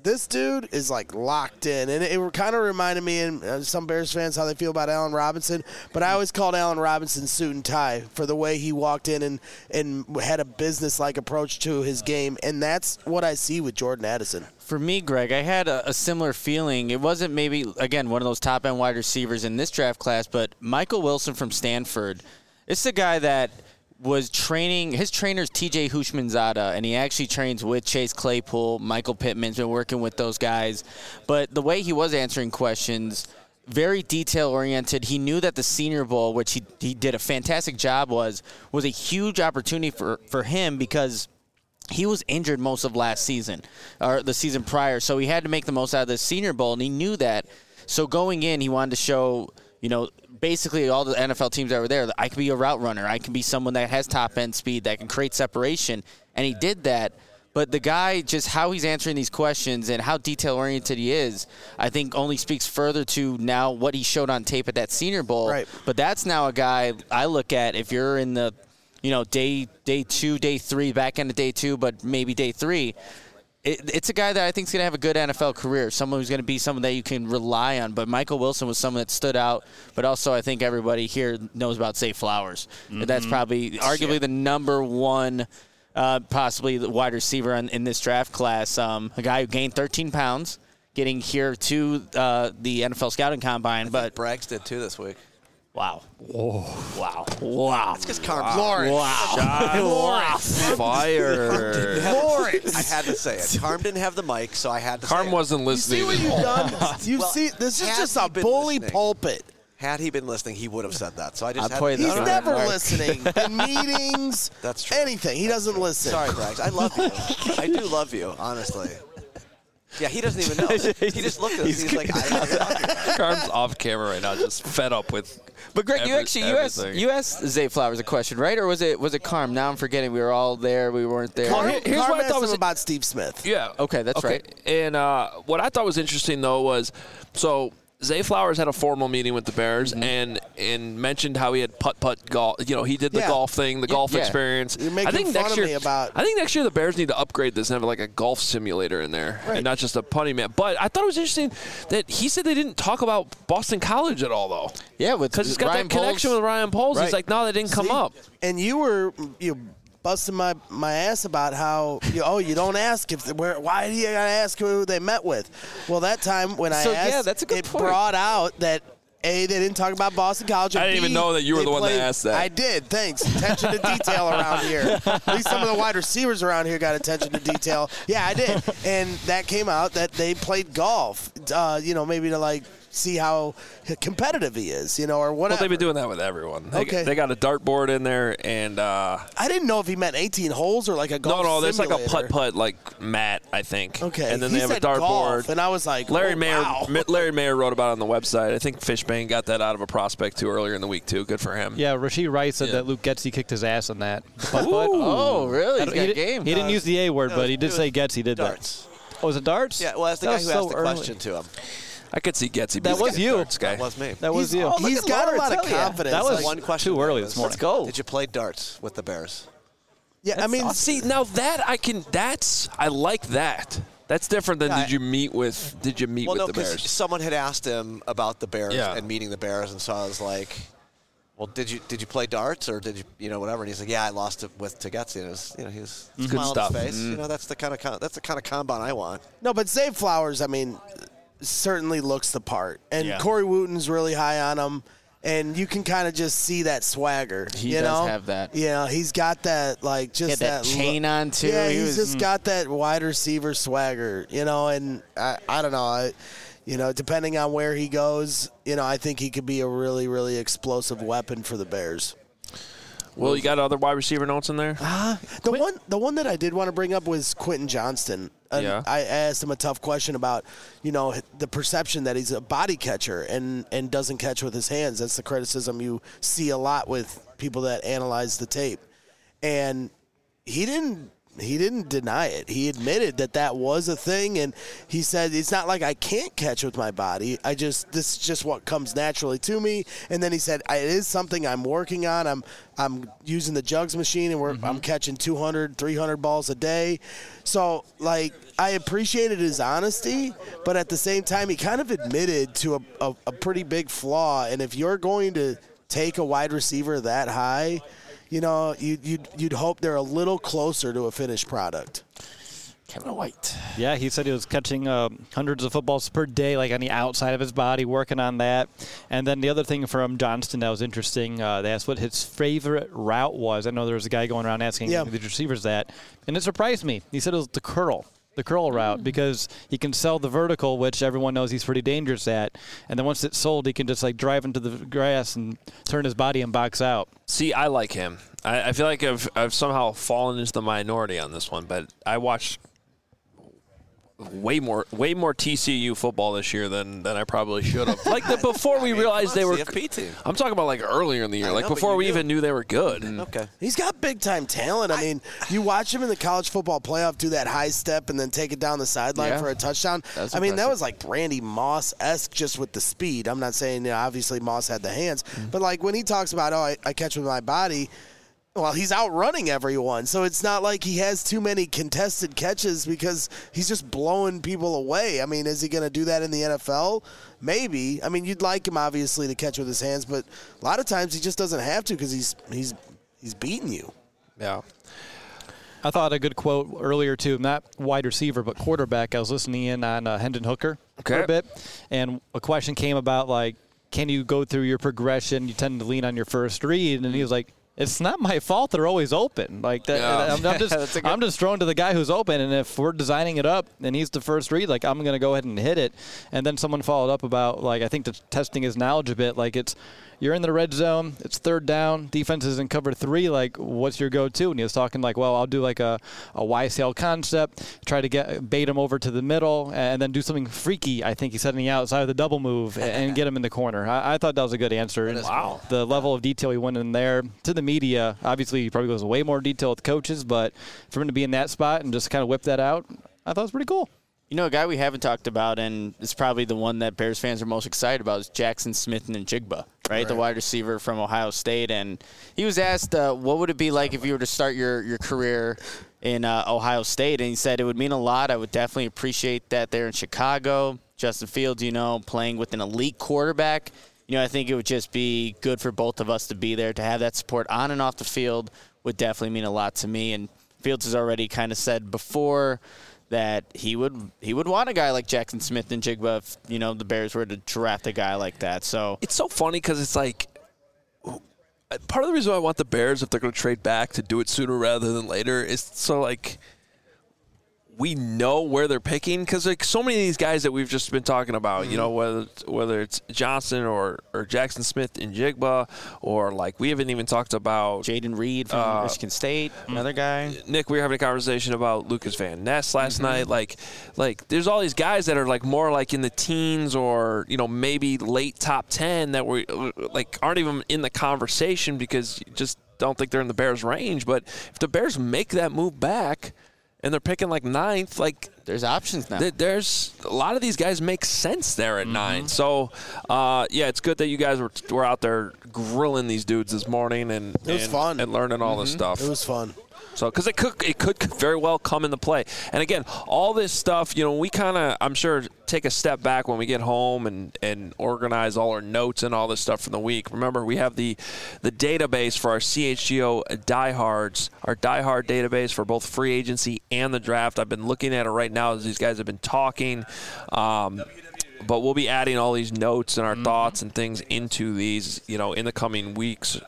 [SPEAKER 9] this dude is like locked in, and it kind of reminded me, and some Bears fans how they feel about Allen Robinson. But I always called Allen Robinson suit and tie for the way he walked in and had a business-like approach to his game, and that's what I see with Jordan Addison.
[SPEAKER 4] For me, Greg, I had a similar feeling. It wasn't maybe, again, one of those top-end wide receivers in this draft class, but Michael Wilson from Stanford. It's a guy that was training, his trainer's TJ Hushmanzada, and he actually trains with Chase Claypool. Michael Pittman's been working with those guys. But the way he was answering questions, very detail-oriented. He knew that the Senior Bowl, which he did a fantastic job, was a huge opportunity for him because he was injured most of last season, or the season prior. So he had to make the most out of the Senior Bowl, and he knew that. So going in, he wanted to show, basically all the NFL teams that were there, that I can be a route runner. I can be someone that has top-end speed, that can create separation. And he did that. But the guy, just how he's answering these questions and how detail-oriented he is, I think only speaks further to now what he showed on tape at that Senior Bowl.
[SPEAKER 9] Right.
[SPEAKER 4] But that's now a guy I look at if you're in the, day 2, day 3, back end of day 2, but maybe day 3. It's a guy that I think is going to have a good NFL career, someone who's going to be someone that you can rely on. But Michael Wilson was someone that stood out. But also I think everybody here knows about Zay Flowers. Mm-hmm. That's probably arguably the number one possibly the wide receiver in this draft class. A guy who gained 13 pounds getting here to the NFL Scouting Combine. But
[SPEAKER 2] Braggs did too this week.
[SPEAKER 4] Wow. Whoa. Wow.
[SPEAKER 2] It's because Carm.
[SPEAKER 9] Lawrence.
[SPEAKER 4] Wow.
[SPEAKER 9] Lawrence.
[SPEAKER 1] Fire.
[SPEAKER 9] Lawrence.
[SPEAKER 2] I had to say it. Carm didn't have the mic, so I had to
[SPEAKER 1] Carm
[SPEAKER 2] say
[SPEAKER 1] wasn't
[SPEAKER 9] You
[SPEAKER 1] listening.
[SPEAKER 9] see what you've done? This is
[SPEAKER 2] had
[SPEAKER 9] just
[SPEAKER 2] he
[SPEAKER 9] a
[SPEAKER 2] been
[SPEAKER 9] bully
[SPEAKER 2] listening-
[SPEAKER 9] pulpit.
[SPEAKER 2] Had he been listening, he would have said that. So I just
[SPEAKER 4] I'll
[SPEAKER 2] had
[SPEAKER 4] play
[SPEAKER 2] to
[SPEAKER 4] this
[SPEAKER 9] He's
[SPEAKER 4] one.
[SPEAKER 9] never
[SPEAKER 4] Mark.
[SPEAKER 9] listening in meetings.
[SPEAKER 2] That's true.
[SPEAKER 9] Anything. He doesn't listen.
[SPEAKER 2] Sorry, Braggs. I love you. I do love you, honestly. Yeah, he doesn't even know. He just looked at us. He's like, I don't know.
[SPEAKER 1] Carm's off camera right now, just fed up with.
[SPEAKER 4] But Greg,
[SPEAKER 1] everything.
[SPEAKER 4] you asked Zay Flowers a question, right? Or was it Carm? Now I'm forgetting. We were all there. We weren't there.
[SPEAKER 9] Carm,
[SPEAKER 1] here's
[SPEAKER 9] Carm
[SPEAKER 1] what I
[SPEAKER 9] asked
[SPEAKER 1] thought was
[SPEAKER 9] him about Steve Smith.
[SPEAKER 1] Yeah.
[SPEAKER 4] Okay, that's right.
[SPEAKER 1] And what I thought was interesting though was Zay Flowers had a formal meeting with the Bears and mentioned how he had putt golf. He did the golf thing, the golf experience.
[SPEAKER 9] You're making fun of me about.
[SPEAKER 1] I think next year the Bears need to upgrade this and have like a golf simulator in there, and not just a punting man. But I thought it was interesting that he said they didn't talk about Boston College at all though.
[SPEAKER 4] Yeah,
[SPEAKER 1] Because he's got
[SPEAKER 4] Ryan
[SPEAKER 1] that connection
[SPEAKER 4] Poles.
[SPEAKER 1] with Ryan Poles.
[SPEAKER 4] Right.
[SPEAKER 1] He's like, no, that didn't come
[SPEAKER 9] See?
[SPEAKER 1] up.
[SPEAKER 9] And you were busting my ass about how you don't ask why do you gotta ask who they met with? Well, that time when I asked,
[SPEAKER 4] that's a good
[SPEAKER 9] it
[SPEAKER 4] point.
[SPEAKER 9] brought out that A, they didn't talk about Boston College. And
[SPEAKER 1] I didn't even
[SPEAKER 9] B,
[SPEAKER 1] know that you were
[SPEAKER 9] they
[SPEAKER 1] the one that
[SPEAKER 9] played-
[SPEAKER 1] asked that.
[SPEAKER 9] I did. Thanks. Attention to detail around here. At least some of the wide receivers around here got attention to detail. Yeah, I did. And that came out that they played golf. Maybe to see how competitive he is, or whatever.
[SPEAKER 1] Well, they've been doing that with everyone. They got a dartboard in there, and
[SPEAKER 9] I didn't know if he meant 18 holes or like a golf
[SPEAKER 1] no, there's like a
[SPEAKER 9] simulator.
[SPEAKER 1] putt like mat, I think.
[SPEAKER 9] Okay,
[SPEAKER 1] and then
[SPEAKER 9] he
[SPEAKER 1] they have a
[SPEAKER 9] said
[SPEAKER 1] dartboard.
[SPEAKER 9] golf, and I was like,
[SPEAKER 1] Larry
[SPEAKER 9] oh,
[SPEAKER 1] Mayer.
[SPEAKER 9] wow.
[SPEAKER 1] Larry Mayer wrote about it on the website. I think Fishbane got that out of a prospect too earlier in the week too. Good for him.
[SPEAKER 10] Yeah, Rasheed Rice said that Luke Getsy kicked his ass on that. Putt-putt.
[SPEAKER 4] Oh, really? He's
[SPEAKER 10] He
[SPEAKER 4] got
[SPEAKER 10] did-
[SPEAKER 4] game.
[SPEAKER 10] He didn't use the A word,
[SPEAKER 2] No,
[SPEAKER 10] but he did
[SPEAKER 2] it
[SPEAKER 10] say
[SPEAKER 2] was
[SPEAKER 10] Getsy did
[SPEAKER 2] darts.
[SPEAKER 10] that. Oh, was it darts?
[SPEAKER 2] Yeah, well, that's the
[SPEAKER 10] That
[SPEAKER 2] guy
[SPEAKER 10] was
[SPEAKER 2] who
[SPEAKER 10] so
[SPEAKER 2] asked the
[SPEAKER 10] early.
[SPEAKER 2] question to him.
[SPEAKER 1] I could see Getsy.
[SPEAKER 10] That was you.
[SPEAKER 1] Guy.
[SPEAKER 2] That was me.
[SPEAKER 10] That was you.
[SPEAKER 9] He's got a lot of confidence.
[SPEAKER 10] That was
[SPEAKER 9] Like,
[SPEAKER 2] one question.
[SPEAKER 10] too early
[SPEAKER 2] was,
[SPEAKER 10] this morning.
[SPEAKER 4] Let's go.
[SPEAKER 2] Did you play darts with the Bears?
[SPEAKER 9] yeah, I mean,
[SPEAKER 1] See now that I like that. That's different than
[SPEAKER 2] Yeah,
[SPEAKER 1] did you meet with
[SPEAKER 2] Well,
[SPEAKER 1] the
[SPEAKER 2] no, because
[SPEAKER 1] Bears?
[SPEAKER 2] someone had asked him about the Bears
[SPEAKER 1] Yeah.
[SPEAKER 2] and meeting the Bears, and so I was like, "Well, did you play darts or did you whatever?" And he's like, "Yeah, I lost it to Getsy." And it was he was
[SPEAKER 1] good
[SPEAKER 2] smiling
[SPEAKER 1] stuff.
[SPEAKER 2] on his face. That's the kind of combine I want.
[SPEAKER 9] no, but Zay Flowers, I mean, certainly looks the part. And
[SPEAKER 4] Yeah.
[SPEAKER 9] Corey Wooten's really high on him. And you can kind of just see that swagger.
[SPEAKER 4] He
[SPEAKER 9] you
[SPEAKER 4] does
[SPEAKER 9] know?
[SPEAKER 4] have that.
[SPEAKER 9] Yeah, he's got that, just
[SPEAKER 4] He had that chain on, too.
[SPEAKER 9] Yeah,
[SPEAKER 4] He
[SPEAKER 9] he's
[SPEAKER 4] was-
[SPEAKER 9] just got that wide receiver swagger, and I don't know. Depending on where he goes, I think he could be a really, really explosive weapon for the Bears.
[SPEAKER 1] Well, you got other wide receiver notes in there?
[SPEAKER 9] The one that I did want to bring up was Quentin Johnston. And
[SPEAKER 1] Yeah.
[SPEAKER 9] I asked him a tough question about, the perception that he's a body catcher and doesn't catch with his hands. That's the criticism you see a lot with people that analyze the tape. And he didn't deny it. He admitted that was a thing, and he said it's not like I can't catch with my body. This is just what comes naturally to me. And then he said it is something I'm working on. I'm using the jugs machine, and I'm catching 200, 300 balls a day. So like I appreciated his honesty, but at the same time he kind of admitted to a pretty big flaw. And if you're going to take a wide receiver that high, you know, you'd hope they're a little closer to a finished product.
[SPEAKER 4] Kevin White.
[SPEAKER 10] Yeah, he said he was catching hundreds of footballs per day, like on the outside of his body, working on that. And then the other thing from Johnston that was interesting, they asked what his favorite route was. I know there was a guy going around asking the receivers that, and it surprised me. He said it was the curl route, because he can sell the vertical, which everyone knows he's pretty dangerous at. And then once it's sold, he can just like drive into the grass and turn his body and box out.
[SPEAKER 1] See, I like him. I feel like I've somehow fallen into the minority on this one, but I watched way more TCU football this year than I probably should have. Like before we realized they were
[SPEAKER 2] CFP team.
[SPEAKER 1] I'm talking about like earlier in the year, like before we even knew they were good.
[SPEAKER 2] Okay.
[SPEAKER 9] He's got big time talent. I mean, you watch him in the college football playoff do that high step and then take it down the sideline for a touchdown. I mean, that was like Randy Moss-esque just with the speed. I'm not saying obviously Moss had the hands, but like when he talks about I catch with my body. Well, he's outrunning everyone, so it's not like he has too many contested catches because he's just blowing people away. I mean, is he going to do that in the NFL? Maybe. I mean, you'd like him, obviously, to catch with his hands, but a lot of times he just doesn't have to because he's beating you.
[SPEAKER 1] Yeah.
[SPEAKER 10] I thought a good quote earlier, too, not wide receiver, but quarterback. I was listening in on Hendon Hooker for a bit, and a question came about, like, can you go through your progression? You tend to lean on your first read, and he was like, it's not my fault they're always open. Like that, yeah. I'm just throwing to the guy who's open, and if we're designing it up and he's the first read, like I'm going to go ahead and hit it. And then someone followed up about, like, I think testing his knowledge a bit. Like you're in the red zone, it's third down, defense is in cover 3. Like, what's your go-to? And he was talking like, well, I'll do like a YCL concept, try to bait him over to the middle, and then do something freaky. I think he said on the outside of the double move and get him in the corner. I thought that was a good answer.
[SPEAKER 2] Wow.
[SPEAKER 10] The level of detail he went in there to the media. Obviously, he probably goes way more detail with the coaches, but for him to be in that spot and just kind of whip that out, I thought it was pretty cool.
[SPEAKER 4] You know, a guy we haven't talked about, and it's probably the one that Bears fans are most excited about, is Jackson Smith-Njigba, right? The wide receiver from Ohio State. And he was asked, what would it be like if you were to start your career in Ohio State? And he said, it would mean a lot. I would definitely appreciate that there in Chicago. Justin Fields, playing with an elite quarterback. I think it would just be good for both of us to be there. To have that support on and off the field would definitely mean a lot to me. And Fields has already kind of said before that he would want a guy like Jackson Smith-Njigba if, the Bears were to draft a guy like that. So
[SPEAKER 1] it's so funny because it's like part of the reason why I want the Bears, if they're going to trade back, to do it sooner rather than later is so like we know where they're picking, because like so many of these guys that we've just been talking about, whether it's Johnson or Jackson Smith-Njigba, or like we haven't even talked about
[SPEAKER 4] Jaden Reed from Michigan State, another guy.
[SPEAKER 1] Nick, we were having a conversation about Lucas Van Ness last night. Like there's all these guys that are like more like in the teens or maybe late top 10 that were like aren't even in the conversation because you just don't think they're in the Bears' range. But if the Bears make that move back, and they're picking like 9th, like
[SPEAKER 4] there's options now.
[SPEAKER 1] There's a lot of these guys make sense there at 9. So, it's good that you guys were out there grilling these dudes this morning and
[SPEAKER 9] it was fun
[SPEAKER 1] and learning all this stuff.
[SPEAKER 9] It was fun.
[SPEAKER 1] So, because it could very well come into play. And again, all this stuff, we kind of, I'm sure, take a step back when we get home and organize all our notes and all this stuff from the week. Remember, we have the database for our CHGO diehards, our diehard database for both free agency and the draft. I've been looking at it right now as these guys have been talking. But we'll be adding all these notes and our thoughts and things into these, in the coming weeks,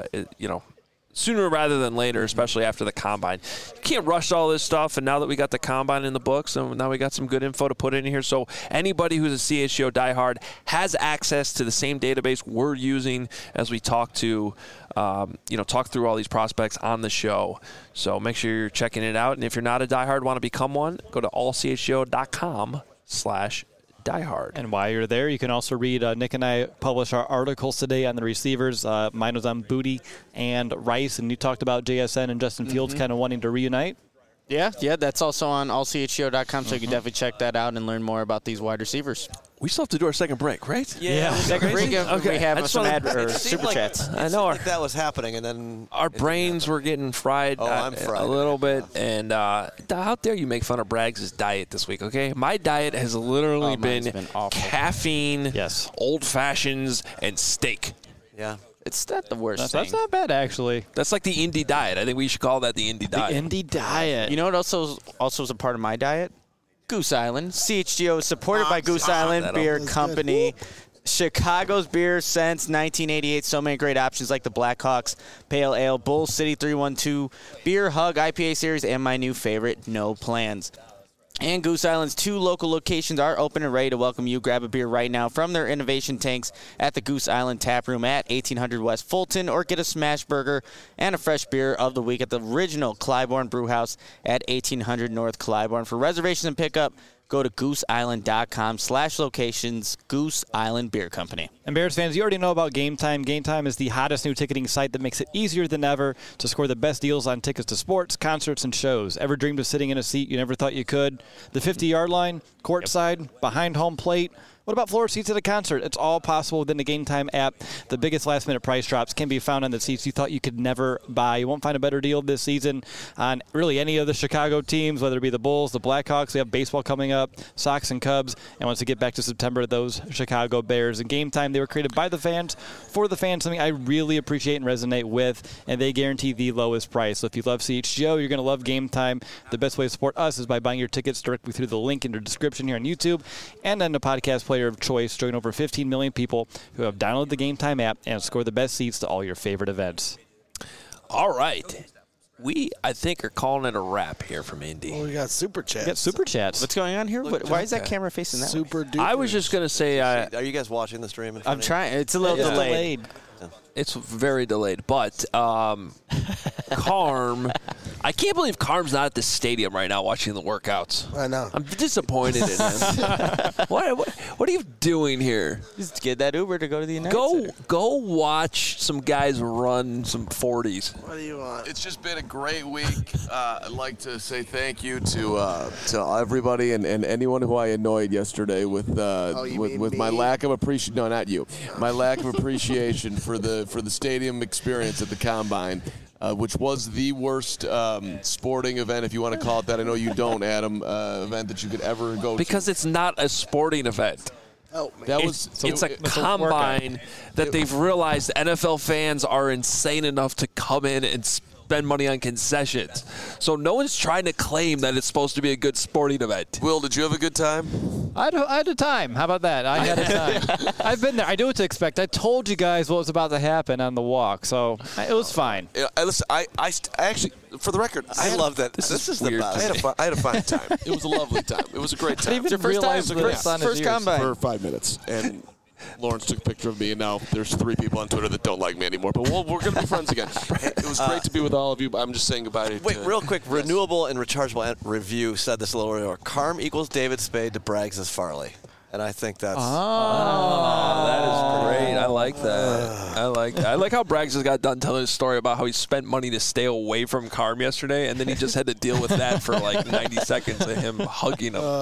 [SPEAKER 1] sooner rather than later, especially after the Combine. You can't rush all this stuff, and now that we got the Combine in the books, and now we got some good info to put in here, so anybody who's a CHGO diehard has access to the same database we're using as we talk through all these prospects on the show. So make sure you're checking it out, and if you're not a diehard, want to become one, go to allchgo.com/diehard.
[SPEAKER 10] And while you're there, you can also read Nick and I publish our articles today on the receivers. Mine was on Booty and Rice, and you talked about JSN and Justin Fields kind of wanting to reunite.
[SPEAKER 4] Yeah, that's also on allchgo.com, so you can definitely check that out and learn more about these wide receivers.
[SPEAKER 1] We still have to do our second break, right?
[SPEAKER 4] Yeah. Second break.
[SPEAKER 1] Okay.
[SPEAKER 4] We have some
[SPEAKER 2] It
[SPEAKER 4] super
[SPEAKER 2] seemed
[SPEAKER 4] chats.
[SPEAKER 2] I know like that was happening, and then
[SPEAKER 1] our brains were getting fried,
[SPEAKER 2] I'm fried
[SPEAKER 1] a little bit. And how dare you make fun of Braggs' diet this week, okay? My diet has literally been
[SPEAKER 4] awful.
[SPEAKER 1] caffeine,
[SPEAKER 10] Yes.
[SPEAKER 1] old fashions, and steak.
[SPEAKER 2] Yeah.
[SPEAKER 4] It's not the worst
[SPEAKER 10] That's
[SPEAKER 4] thing.
[SPEAKER 10] not bad, actually.
[SPEAKER 1] That's like the indie diet. I think we should call that the indie diet.
[SPEAKER 10] Indie diet.
[SPEAKER 4] You know what also is a part of my diet? Goose Island. CHGO is supported by Goose Island Beer Company. Chicago's beer since 1988. So many great options like the Blackhawks Pale Ale, Bull City 312, Beer Hug IPA series, and my new favorite, No Plans. And Goose Island's 2 local locations are open and ready to welcome you. Grab a beer right now from their innovation tanks at the Goose Island Tap Room at 1800 West Fulton, or get a smash burger and a fresh beer of the week at the original Clybourne Brewhouse at 1800 North Clybourne. For reservations and pickup, go to gooseisland.com/locations. Goose Island Beer Company.
[SPEAKER 10] And Bears fans, you already know about Game Time. Game Time is the hottest new ticketing site that makes it easier than ever to score the best deals on tickets to sports, concerts, and shows. Ever dreamed of sitting in a seat you never thought you could? The 50-yard line, courtside, behind home plate. What about floor seats at a concert? It's all possible within the Game Time app. The biggest last-minute price drops can be found on the seats you thought you could never buy. You won't find a better deal this season on really any of the Chicago teams, whether it be the Bulls, the Blackhawks. We have baseball coming up, Sox and Cubs. And once we get back to September, those Chicago Bears. And Game Time, they were created by the fans, for the fans, something I really appreciate and resonate with. And they guarantee the lowest price. So if you love CHGO, you're going to love Game Time. The best way to support us is by buying your tickets directly through the link in the description here on YouTube and on the podcast player of choice. Join over 15 million people who have downloaded the Game Time app and score the best seats to all your favorite events.
[SPEAKER 1] All right. We, I think, are calling it a wrap here from Indy.
[SPEAKER 9] Oh, we got super chats.
[SPEAKER 10] We got super chats.
[SPEAKER 4] What's going on here? Why is that camera facing that way?
[SPEAKER 9] Super duper.
[SPEAKER 1] I was just going to say...
[SPEAKER 2] are you guys watching the stream? In front
[SPEAKER 4] I'm
[SPEAKER 2] of you?
[SPEAKER 4] trying. It's a little delayed.
[SPEAKER 1] It's very delayed, but Carm, I can't believe Carm's not at the stadium right now watching the workouts.
[SPEAKER 9] I know.
[SPEAKER 1] I'm disappointed in him. What are you doing here?
[SPEAKER 4] Just get that Uber to go to the United Center.
[SPEAKER 1] Go watch some guys run some 40s.
[SPEAKER 9] What do you want?
[SPEAKER 3] It's just been a great week. I'd like to say thank you to everybody and anyone who I annoyed yesterday with my lack of appreciation. No, not you. My lack of appreciation for the stadium experience at the Combine, which was the worst sporting event, if you want to call it that. I know you don't, Adam. Event that you could ever go to.
[SPEAKER 1] Because it's not a sporting event.
[SPEAKER 9] Oh, man.
[SPEAKER 1] It's a combine that they've realized NFL fans are insane enough to come in and spend money on concessions. So no one's trying to claim that it's supposed to be a good sporting event.
[SPEAKER 3] Will, did you have a good time?
[SPEAKER 10] I had a time. How about that? I had a time. I've been there. I knew what to expect. I told you guys what was about to happen on the walk, so it was fine.
[SPEAKER 3] Listen, I actually, for the record,
[SPEAKER 2] I love that. This is the
[SPEAKER 1] weird.
[SPEAKER 2] best.
[SPEAKER 3] I had a fine time. It was a lovely time. It was a great time.
[SPEAKER 10] Your first time,
[SPEAKER 4] First combine.
[SPEAKER 3] For 5 minutes. And Lawrence took a picture of me, and now there's 3 people on Twitter that don't like me anymore. But we're going to be friends again. It was great to be with all of you. But I'm just saying goodbye.
[SPEAKER 2] Wait, real quick. Yes. Renewable and Rechargeable Review said this a little earlier. Carm equals David Spade to Braggs is Farley. And I think that's...
[SPEAKER 1] that is great. I like that. I like how Braggs just got done telling his story about how he spent money to stay away from Carm yesterday, and then he just had to deal with that for like 90 seconds of him hugging him.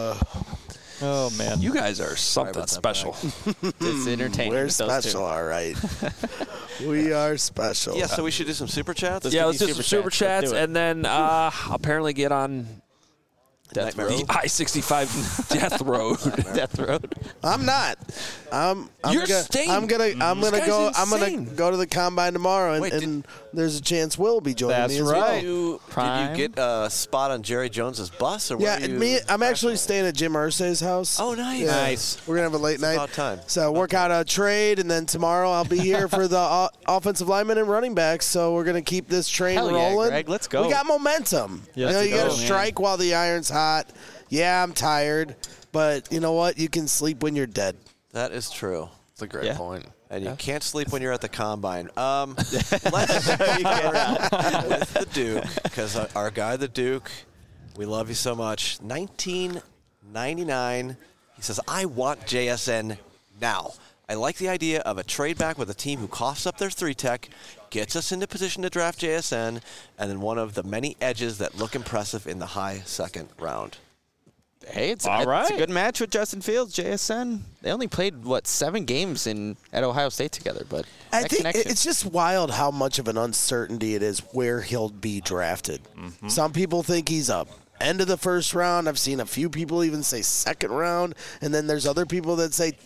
[SPEAKER 10] Oh, man.
[SPEAKER 1] You guys are something special.
[SPEAKER 4] It's entertaining.
[SPEAKER 9] We're
[SPEAKER 4] with those two.
[SPEAKER 9] special, all right. We are special.
[SPEAKER 2] Yeah, so we should do some super chats?
[SPEAKER 1] Let's do some super chats, and then apparently get on
[SPEAKER 2] Death Road.
[SPEAKER 1] the I-65 Death Road.
[SPEAKER 4] Death Road.
[SPEAKER 9] I'm not. I'm
[SPEAKER 1] You're
[SPEAKER 9] gonna,
[SPEAKER 1] staying.
[SPEAKER 9] I'm gonna
[SPEAKER 1] This
[SPEAKER 9] go.
[SPEAKER 1] guy's
[SPEAKER 9] I'm gonna
[SPEAKER 1] insane.
[SPEAKER 9] go to the combine tomorrow, and,
[SPEAKER 2] Wait,
[SPEAKER 9] and there's a chance Will will be joining
[SPEAKER 10] That's
[SPEAKER 9] me as
[SPEAKER 10] right.
[SPEAKER 9] well.
[SPEAKER 2] Did you get a spot on Jerry Jones's bus? Or
[SPEAKER 9] Yeah,
[SPEAKER 2] where
[SPEAKER 9] and
[SPEAKER 2] you
[SPEAKER 9] I'm actually staying at Jim Irsay's house.
[SPEAKER 2] Oh, nice.
[SPEAKER 9] Yeah.
[SPEAKER 10] Nice.
[SPEAKER 9] We're gonna have a late night.
[SPEAKER 2] about time.
[SPEAKER 9] So work out a trade, and then tomorrow I'll be here for the offensive linemen and running backs. So we're gonna keep this train
[SPEAKER 4] Hell yeah,
[SPEAKER 9] rolling.
[SPEAKER 4] Greg, let's go.
[SPEAKER 9] We got momentum.
[SPEAKER 10] Yes,
[SPEAKER 9] you got to
[SPEAKER 10] go, man.
[SPEAKER 9] strike while the iron's hot. Yeah, I'm tired, but you know what? You can sleep when you're dead.
[SPEAKER 2] That is true.
[SPEAKER 1] That's a great point.
[SPEAKER 2] And you can't sleep when you're at the combine. Let's get with the Duke, because our guy, the Duke, we love you so much. 1999, he says, I want JSN now. I like the idea of a trade back with a team who coughs up their 3-tech, gets us into position to draft JSN, and then one of the many edges that look impressive in the high second round.
[SPEAKER 4] Hey, it's
[SPEAKER 5] All right.
[SPEAKER 4] It's a good match with Justin Fields, JSN. They only played, 7 games at Ohio State together, but
[SPEAKER 9] I
[SPEAKER 4] that
[SPEAKER 9] think
[SPEAKER 4] connection.
[SPEAKER 9] it's just wild how much of an uncertainty it is where he'll be drafted.
[SPEAKER 4] Mm-hmm.
[SPEAKER 9] Some people think he's up end of the first round. I've seen a few people even say second round, and then there's other people that say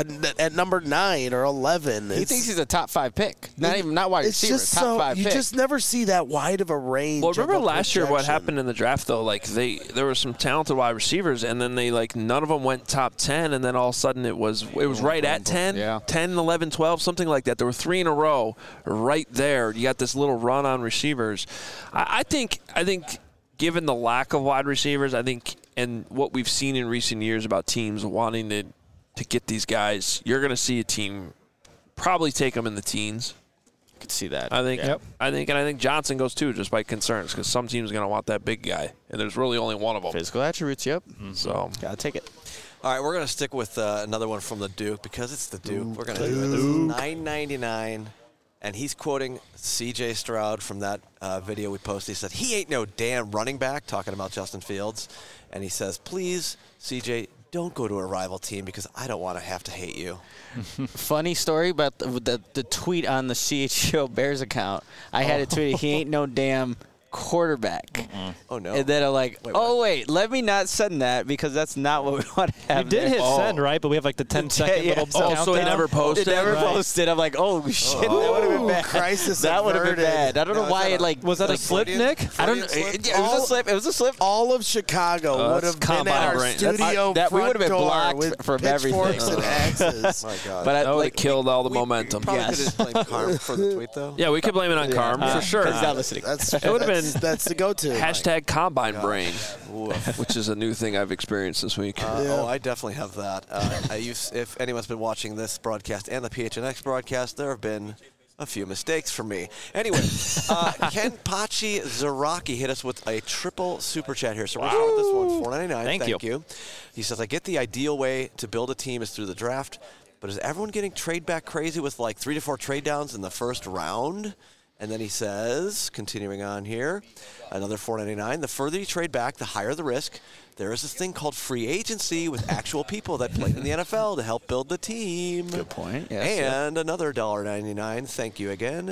[SPEAKER 9] at number 9 or 11.
[SPEAKER 4] He thinks he's a top 5 pick. Not wide
[SPEAKER 9] It's
[SPEAKER 4] receiver,
[SPEAKER 9] just
[SPEAKER 4] top 5
[SPEAKER 9] you
[SPEAKER 4] pick.
[SPEAKER 9] just never see that wide of a range.
[SPEAKER 1] Well,
[SPEAKER 9] of
[SPEAKER 1] remember
[SPEAKER 9] a
[SPEAKER 1] last year what
[SPEAKER 9] projection.
[SPEAKER 1] happened in the draft though? Like there were some talented wide receivers, and then none of them went top 10, and then all of a sudden it was right at 10,
[SPEAKER 4] Yeah.
[SPEAKER 1] 10, 11, 12, something like that. There were 3 in a row right there. You got this little run on receivers. I think. Given the lack of wide receivers, I think, and what we've seen in recent years about teams wanting to get these guys, you're going to see a team probably take them in the teens.
[SPEAKER 4] I could see that.
[SPEAKER 1] I think.
[SPEAKER 10] Yep.
[SPEAKER 1] I think Johnson goes too, just by concerns, because some teams are going to want that big guy, and there's really only one of them.
[SPEAKER 4] Physical attributes, yep.
[SPEAKER 1] So
[SPEAKER 4] Gotta take it.
[SPEAKER 2] All right, we're going to stick with another one from the Duke because it's the Duke. We're going to do it. This is $9.99, and he's quoting C.J. Stroud from that video we posted. He said, "He ain't no damn running back," talking about Justin Fields. And he says, "Please, C.J., don't go to a rival team because I don't want to have to hate you."
[SPEAKER 4] Funny story about the tweet on the CHGO Bears account. I had a tweet, "He ain't no damn quarterback."
[SPEAKER 2] Oh, no.
[SPEAKER 4] And then I'm like, wait, let me not send that because that's not what we want to have.
[SPEAKER 10] We did
[SPEAKER 4] there.
[SPEAKER 10] hit send, right? But we have like the 10-second
[SPEAKER 4] Yeah,
[SPEAKER 10] little
[SPEAKER 4] yeah.
[SPEAKER 10] countdown.
[SPEAKER 1] so he never posted?
[SPEAKER 4] It never
[SPEAKER 10] Right.
[SPEAKER 4] posted. I'm like, oh, shit, that would have been bad.
[SPEAKER 9] Crisis
[SPEAKER 4] That would have been
[SPEAKER 9] averted.
[SPEAKER 4] bad. I don't know
[SPEAKER 2] Now,
[SPEAKER 4] why
[SPEAKER 2] is
[SPEAKER 4] it
[SPEAKER 2] that
[SPEAKER 4] like
[SPEAKER 10] Was that a
[SPEAKER 4] like,
[SPEAKER 10] slip,
[SPEAKER 2] Freudian-
[SPEAKER 10] Nick?
[SPEAKER 4] I don't know.
[SPEAKER 2] Freudian
[SPEAKER 4] It
[SPEAKER 2] slip?
[SPEAKER 4] was a slip. It was a slip.
[SPEAKER 9] All of Chicago would
[SPEAKER 1] that's
[SPEAKER 9] have been at
[SPEAKER 1] combine
[SPEAKER 9] our
[SPEAKER 1] brain.
[SPEAKER 9] studio
[SPEAKER 4] That we
[SPEAKER 9] front
[SPEAKER 4] would have been
[SPEAKER 9] door
[SPEAKER 4] blocked
[SPEAKER 9] with
[SPEAKER 4] from
[SPEAKER 9] pitchforks
[SPEAKER 4] everything.
[SPEAKER 9] and axes.
[SPEAKER 2] My God.
[SPEAKER 4] But
[SPEAKER 1] that would have killed all the momentum.
[SPEAKER 2] Probably
[SPEAKER 4] Yes.
[SPEAKER 2] could have blamed Carm for the tweet, though.
[SPEAKER 1] Yeah, we could blame it on Carm for sure.
[SPEAKER 4] He's not listening.
[SPEAKER 9] That's
[SPEAKER 1] It would have been
[SPEAKER 9] that's the go-to.
[SPEAKER 1] hashtag combine brain,
[SPEAKER 2] Oof.
[SPEAKER 1] which is a new thing I've experienced this week.
[SPEAKER 2] Oh, I definitely have that. If anyone's been watching this broadcast and the PHNX broadcast, there have been a few mistakes from me. Anyway, Ken Pachi Zaraki hit us with a triple super chat here. So we're going to start with this one, $4.99.
[SPEAKER 10] Thank
[SPEAKER 2] you. He says, "I get the ideal way to build a team is through the draft, but is everyone getting trade back crazy with like 3 to 4 trade downs in the first round?" And then he says, continuing on here, another $4.99. "The further you trade back, the higher the risk. There is this thing called free agency with actual people that played in the NFL to help build the team."
[SPEAKER 4] Good point. Yes,
[SPEAKER 2] And another $1.99. Thank you again.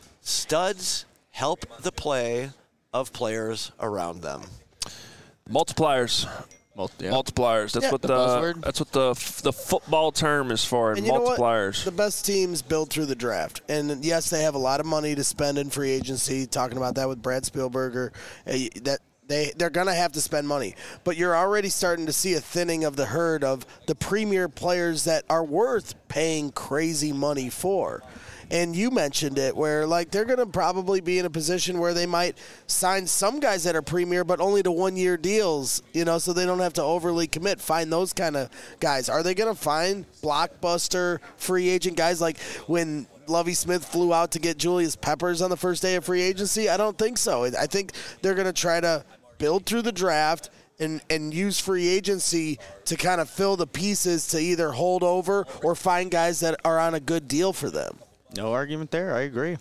[SPEAKER 2] "Studs help the play of players around them."
[SPEAKER 1] Multipliers. Multipliers. That's
[SPEAKER 9] Yeah.
[SPEAKER 1] what
[SPEAKER 4] The buzzword?
[SPEAKER 1] that's what the football term is for.
[SPEAKER 9] And you know what?
[SPEAKER 1] Multipliers.
[SPEAKER 9] The best teams build through the draft. And yes, they have a lot of money to spend in free agency. Talking about that with Brad Spielberger, that they're going to have to spend money. But you're already starting to see a thinning of the herd of the premier players that are worth paying crazy money for. And you mentioned it, where like they're going to probably be in a position where they might sign some guys that are premier, but only to 1-year deals, so they don't have to overly commit. Find those kind of guys. Are they going to find blockbuster free agent guys like when Lovie Smith flew out to get Julius Peppers on the first day of free agency? I don't think so. I think they're going to try to build through the draft and use free agency to kind of fill the pieces to either hold over or find guys that are on a good deal for them.
[SPEAKER 4] No argument there. I agree.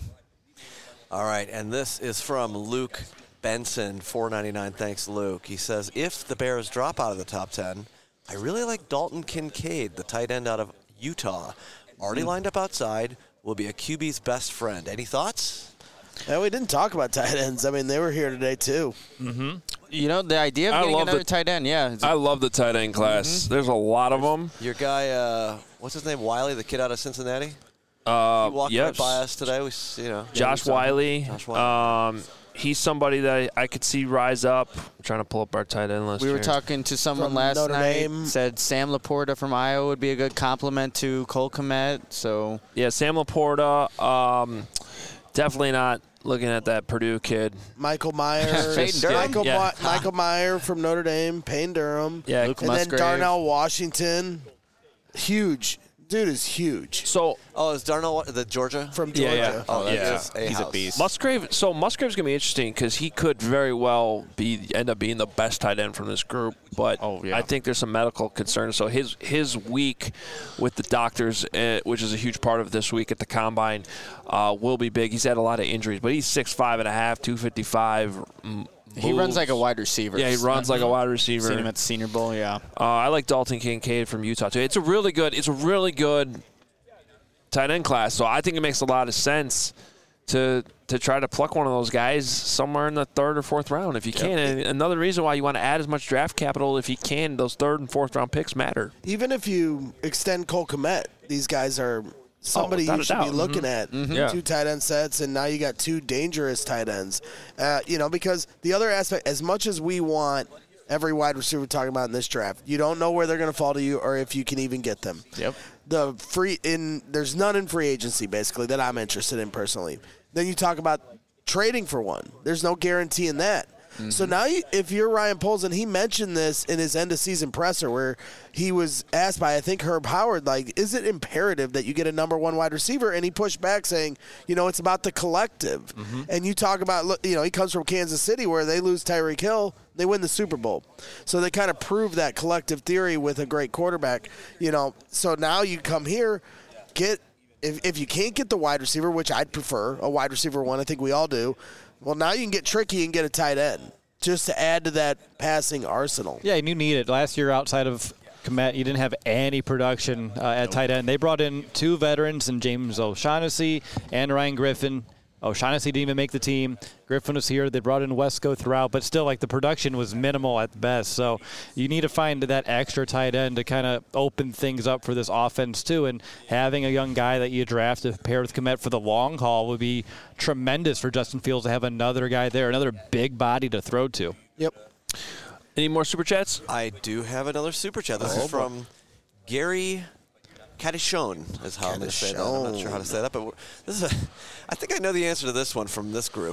[SPEAKER 2] All right, and this is from Luke Benson, $4.99. Thanks, Luke. He says, "If the Bears drop out of the top 10, I really like Dalton Kincaid, the tight end out of Utah. Already lined up outside, will be a QB's best friend. Any thoughts?"
[SPEAKER 9] Yeah, we didn't talk about tight ends. I mean, they were here today, too.
[SPEAKER 4] The idea of getting another tight end, yeah.
[SPEAKER 1] I love the tight end class. There's a lot of them.
[SPEAKER 2] Your guy, what's his name, Wiley, the kid out of Cincinnati? He walked right by us today.
[SPEAKER 1] Josh Wiley.
[SPEAKER 2] Josh Wiley.
[SPEAKER 1] He's somebody that I could see rise up. I'm trying to pull up our tight end list.
[SPEAKER 4] We were
[SPEAKER 1] here.
[SPEAKER 4] talking to someone
[SPEAKER 9] From
[SPEAKER 4] last
[SPEAKER 9] Notre
[SPEAKER 4] night.
[SPEAKER 9] Dame.
[SPEAKER 4] Said Sam Laporta from Iowa would be a good compliment to Cole Kmet. So
[SPEAKER 1] Yeah, Sam Laporta. Definitely not looking at that Purdue kid.
[SPEAKER 9] Michael Meyer.
[SPEAKER 4] Peyton Durham?
[SPEAKER 9] Michael Meyer from Notre Dame. Payne Durham.
[SPEAKER 1] Yeah,
[SPEAKER 4] Luke
[SPEAKER 9] And
[SPEAKER 4] Musgrave.
[SPEAKER 9] then Darnell Washington. Huge. dude is huge.
[SPEAKER 1] So,
[SPEAKER 2] is Darnell the Georgia?
[SPEAKER 9] From Georgia.
[SPEAKER 1] Yeah.
[SPEAKER 2] Oh,
[SPEAKER 1] Yeah.
[SPEAKER 2] he's a beast.
[SPEAKER 1] Musgrave's going to be interesting because he could very well end up being the best tight end from this group. But I think there's some medical concerns. So his week with the doctors, which is a huge part of this week at the Combine, will be big. He's had a lot of injuries, but he's 6'5.5", 255.
[SPEAKER 4] He runs like a wide receiver.
[SPEAKER 1] Yeah, he runs like a wide receiver.
[SPEAKER 4] Seen him at the Senior Bowl, yeah.
[SPEAKER 1] I like Dalton Kincaid from Utah, too. It's a really good tight end class, so I think it makes a lot of sense to try to pluck one of those guys somewhere in the third or fourth round if you can. And another reason why you want to add as much draft capital if you can, those third and fourth round picks matter.
[SPEAKER 9] Even if you extend Cole Kmet, these guys are somebody you should be looking at. Two tight end sets, and now you got two dangerous tight ends. Because the other aspect, as much as we want every wide receiver we're talking about in this draft, you don't know where they're going to fall to you or if you can even get them.
[SPEAKER 4] Yep.
[SPEAKER 9] There's none in free agency, basically, that I'm interested in personally. Then you talk about trading for one. There's no guarantee in that. So now, if you're Ryan Poles, and he mentioned this in his end-of-season presser where he was asked by, I think, Herb Howard, like, is it imperative that you get a number one wide receiver? And he pushed back saying, it's about the collective. And you talk about, he comes from Kansas City where they lose Tyreek Hill, they win the Super Bowl. So they kind of prove that collective theory with a great quarterback. So now you come here, if you can't get the wide receiver, which I'd prefer, a wide receiver one, I think we all do, well, now you can get tricky and get a tight end just to add to that passing arsenal.
[SPEAKER 10] Yeah, and you need it. Last year, outside of Kmet, you didn't have any production at tight end. They brought in two veterans, in James O'Shaughnessy and Ryan Griffin. O'Shaughnessy didn't even make the team. Griffin was here. They brought in Wesco throughout, but still, the production was minimal at best. So you need to find that extra tight end to kind of open things up for this offense, too. And having a young guy that you draft to pair with Kmet for the long haul would be tremendous for Justin Fields to have another guy there, another big body to throw to.
[SPEAKER 9] Yep.
[SPEAKER 1] Any more Super Chats?
[SPEAKER 2] I do have another Super Chat. This is from Gary Cadishone is how I'm going to say that. I'm not sure how to say that, but I think I know the answer to this one from this group.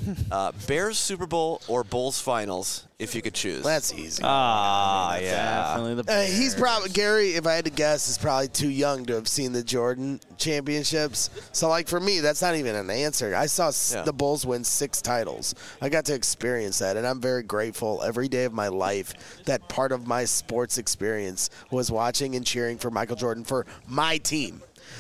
[SPEAKER 2] Bears Super Bowl or Bulls Finals, if you could choose.
[SPEAKER 9] That's easy.
[SPEAKER 4] Yeah. Definitely the Bears.
[SPEAKER 9] He's probably, Gary, if I had to guess, is probably too young to have seen the Jordan championships. So, for me, that's not even an answer. I saw the Bulls win 6 titles. I got to experience that, and I'm very grateful every day of my life that part of my sports experience was watching and cheering for Michael Jordan for my team.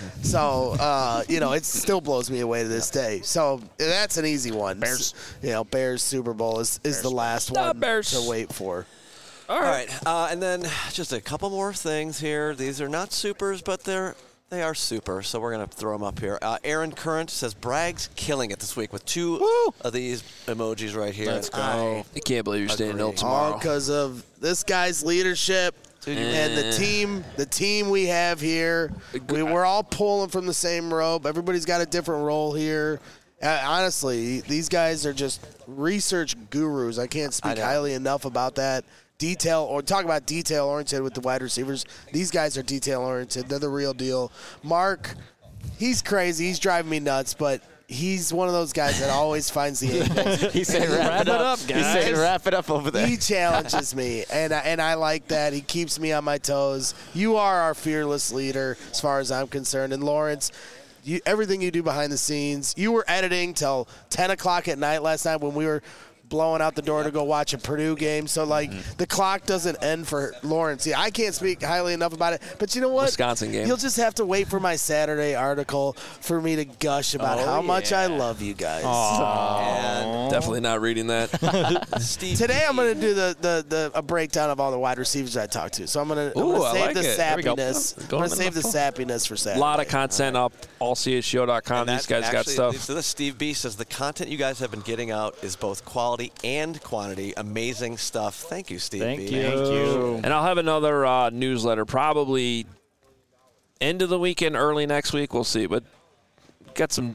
[SPEAKER 9] So, it still blows me away to this day. So, that's an easy one.
[SPEAKER 1] Bears.
[SPEAKER 9] Bears Super Bowl is the last one to wait for.
[SPEAKER 2] All right. And then just a couple more things here. These are not supers, but they are super, so we're going to throw them up here. Aaron Current says Bragg's killing it this week with 2 of these emojis right here.
[SPEAKER 1] Let's go. I can't believe you're staying until tomorrow.
[SPEAKER 9] All because of this guy's leadership. And the team we have here, we're all pulling from the same rope. Everybody's got a different role here. Honestly, these guys are just research gurus. I can't speak highly enough about that. Talk about detail-oriented with the wide receivers. These guys are detail-oriented. They're the real deal. Mark, he's crazy. He's driving me nuts, but he's one of those guys that always finds the angles.
[SPEAKER 4] He said, wrap it up, guys. He said, wrap it up over there.
[SPEAKER 9] He challenges me, and I like that. He keeps me on my toes. You are our fearless leader as far as I'm concerned. And, Lawrence, everything you do behind the scenes, you were editing till 10 o'clock at night last night when we were blowing out the door to go watch a Purdue game. So, the clock doesn't end for Lawrence. Yeah, I can't speak highly enough about it. But you know what?
[SPEAKER 1] Wisconsin game.
[SPEAKER 9] You'll just have to wait for my Saturday article for me to gush about how much I love you guys.
[SPEAKER 1] Definitely not reading that.
[SPEAKER 9] Today I'm going to do a breakdown of all the wide receivers I talked to. So I'm going to save the sappiness. I'm going to save the sappiness for Saturday.
[SPEAKER 1] A lot of content up, allchgo.com. These guys got stuff.
[SPEAKER 2] So Steve B says the content you guys have been getting out is both quality and quantity. Amazing stuff. Thank you, Steve B.
[SPEAKER 10] Thank you.
[SPEAKER 1] And I'll have another newsletter probably end of the weekend, early next week. We'll see. But got some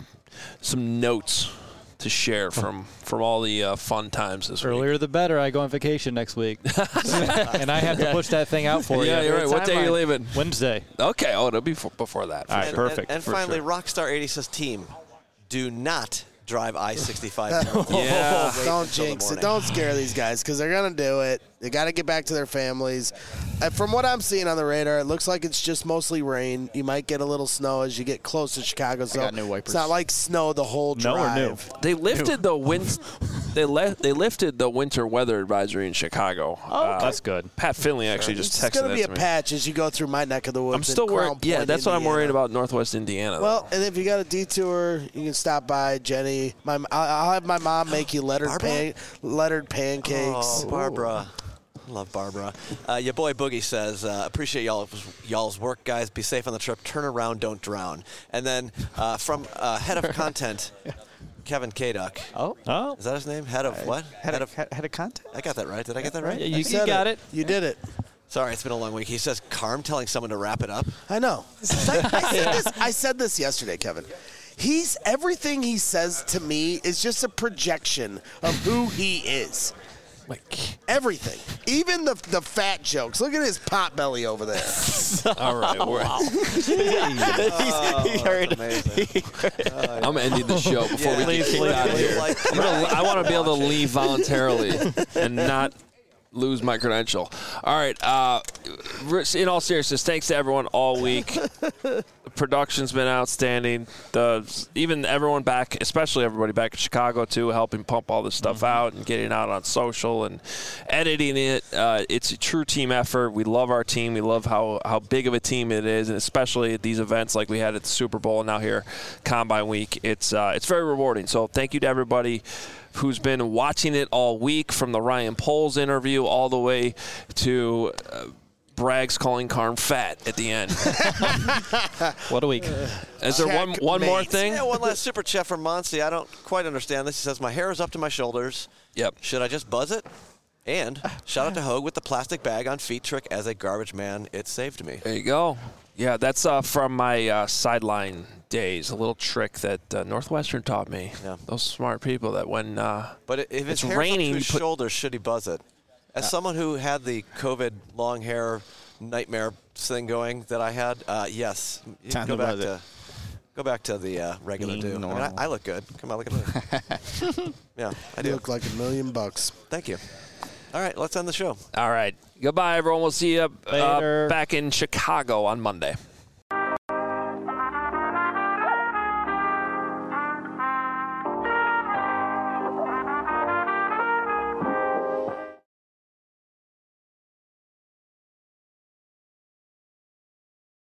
[SPEAKER 1] notes to share from all the fun times this week.
[SPEAKER 10] Earlier the better. I go on vacation next week. And I have to push that thing out for you.
[SPEAKER 1] Yeah, you're right. What day are you leaving?
[SPEAKER 10] Wednesday.
[SPEAKER 1] Okay. Oh, it'll be before that.
[SPEAKER 10] All right, perfect.
[SPEAKER 2] And finally, Rockstar 80 says, team, do not drive I-65.
[SPEAKER 1] Yeah.
[SPEAKER 9] Don't jinx it. Don't scare these guys because they're going to do it. They got to get back to their families. From what I'm seeing on the radar, it looks like it's just mostly rain. You might get a little snow as you get close to Chicago. So
[SPEAKER 4] got new wipers.
[SPEAKER 9] It's not like snow the whole drive.
[SPEAKER 1] They lifted the wind. They lifted the winter weather advisory in Chicago.
[SPEAKER 10] Oh, that's good.
[SPEAKER 1] Pat Finley actually just texted that to me.
[SPEAKER 9] It's going to be a patch as you go through my neck of the woods.
[SPEAKER 1] I'm still worried. Yeah, that's what I'm worried
[SPEAKER 9] about.
[SPEAKER 1] Northwest Indiana.
[SPEAKER 9] Well, and if you got a detour, you can stop by Jenny. I'll have my mom make you lettered pancakes.
[SPEAKER 2] Oh, Barbara. I love Barbara. Your boy Boogie says, appreciate y'all's work, guys. Be safe on the trip. Turn around, don't drown. And then from head of content, Kevin Kaduck.
[SPEAKER 4] Oh.
[SPEAKER 2] Is that his name? Head of what?
[SPEAKER 4] Head of content?
[SPEAKER 2] I got that right. Did I get that right?
[SPEAKER 10] You got it.
[SPEAKER 9] You did it.
[SPEAKER 2] Sorry, it's been a long week. He says, Carm telling someone to wrap it up.
[SPEAKER 9] I know. I said this yesterday, Kevin. Everything he says to me is just a projection of who he is. Everything, even the fat jokes. Look at his pot belly over there.
[SPEAKER 1] All right, I'm ending the show before we get kicked out of here. I want to be able to leave voluntarily and not lose my credential. All right. In all seriousness, thanks to everyone all week. The production's been outstanding. Even everyone back, especially everybody back in Chicago too, helping pump all this stuff out and getting it out on social and editing it. It's a true team effort. We love our team. We love how big of a team it is, and especially at these events like we had at the Super Bowl and now here Combine Week. It's very rewarding. So thank you to everybody who's been watching it all week, from the Ryan Poles interview all the way to Braggs calling Carm fat at the end.
[SPEAKER 10] What a week.
[SPEAKER 1] Is there one more thing?
[SPEAKER 2] Yeah, one last super chat from Monty. I don't quite understand this. He says, my hair is up to my shoulders.
[SPEAKER 1] Yep.
[SPEAKER 2] Should I just buzz it? And shout out to Hogue with the plastic bag on feet trick. As a garbage man, it saved me.
[SPEAKER 1] There you go. Yeah, that's from my sideline days. A little trick that Northwestern taught me. Yeah. Those smart people that when
[SPEAKER 2] but if it's raining, up to his shoulders, should he buzz it? As someone who had the COVID long hair nightmare thing going that I had, yes. Go back to the regular do. I mean, I look good. Come on, look at me. Yeah, I do.
[SPEAKER 9] You look like $1 million.
[SPEAKER 2] Thank you. All right, let's end the show.
[SPEAKER 1] All right. Goodbye, everyone. We'll see you back in Chicago on Monday.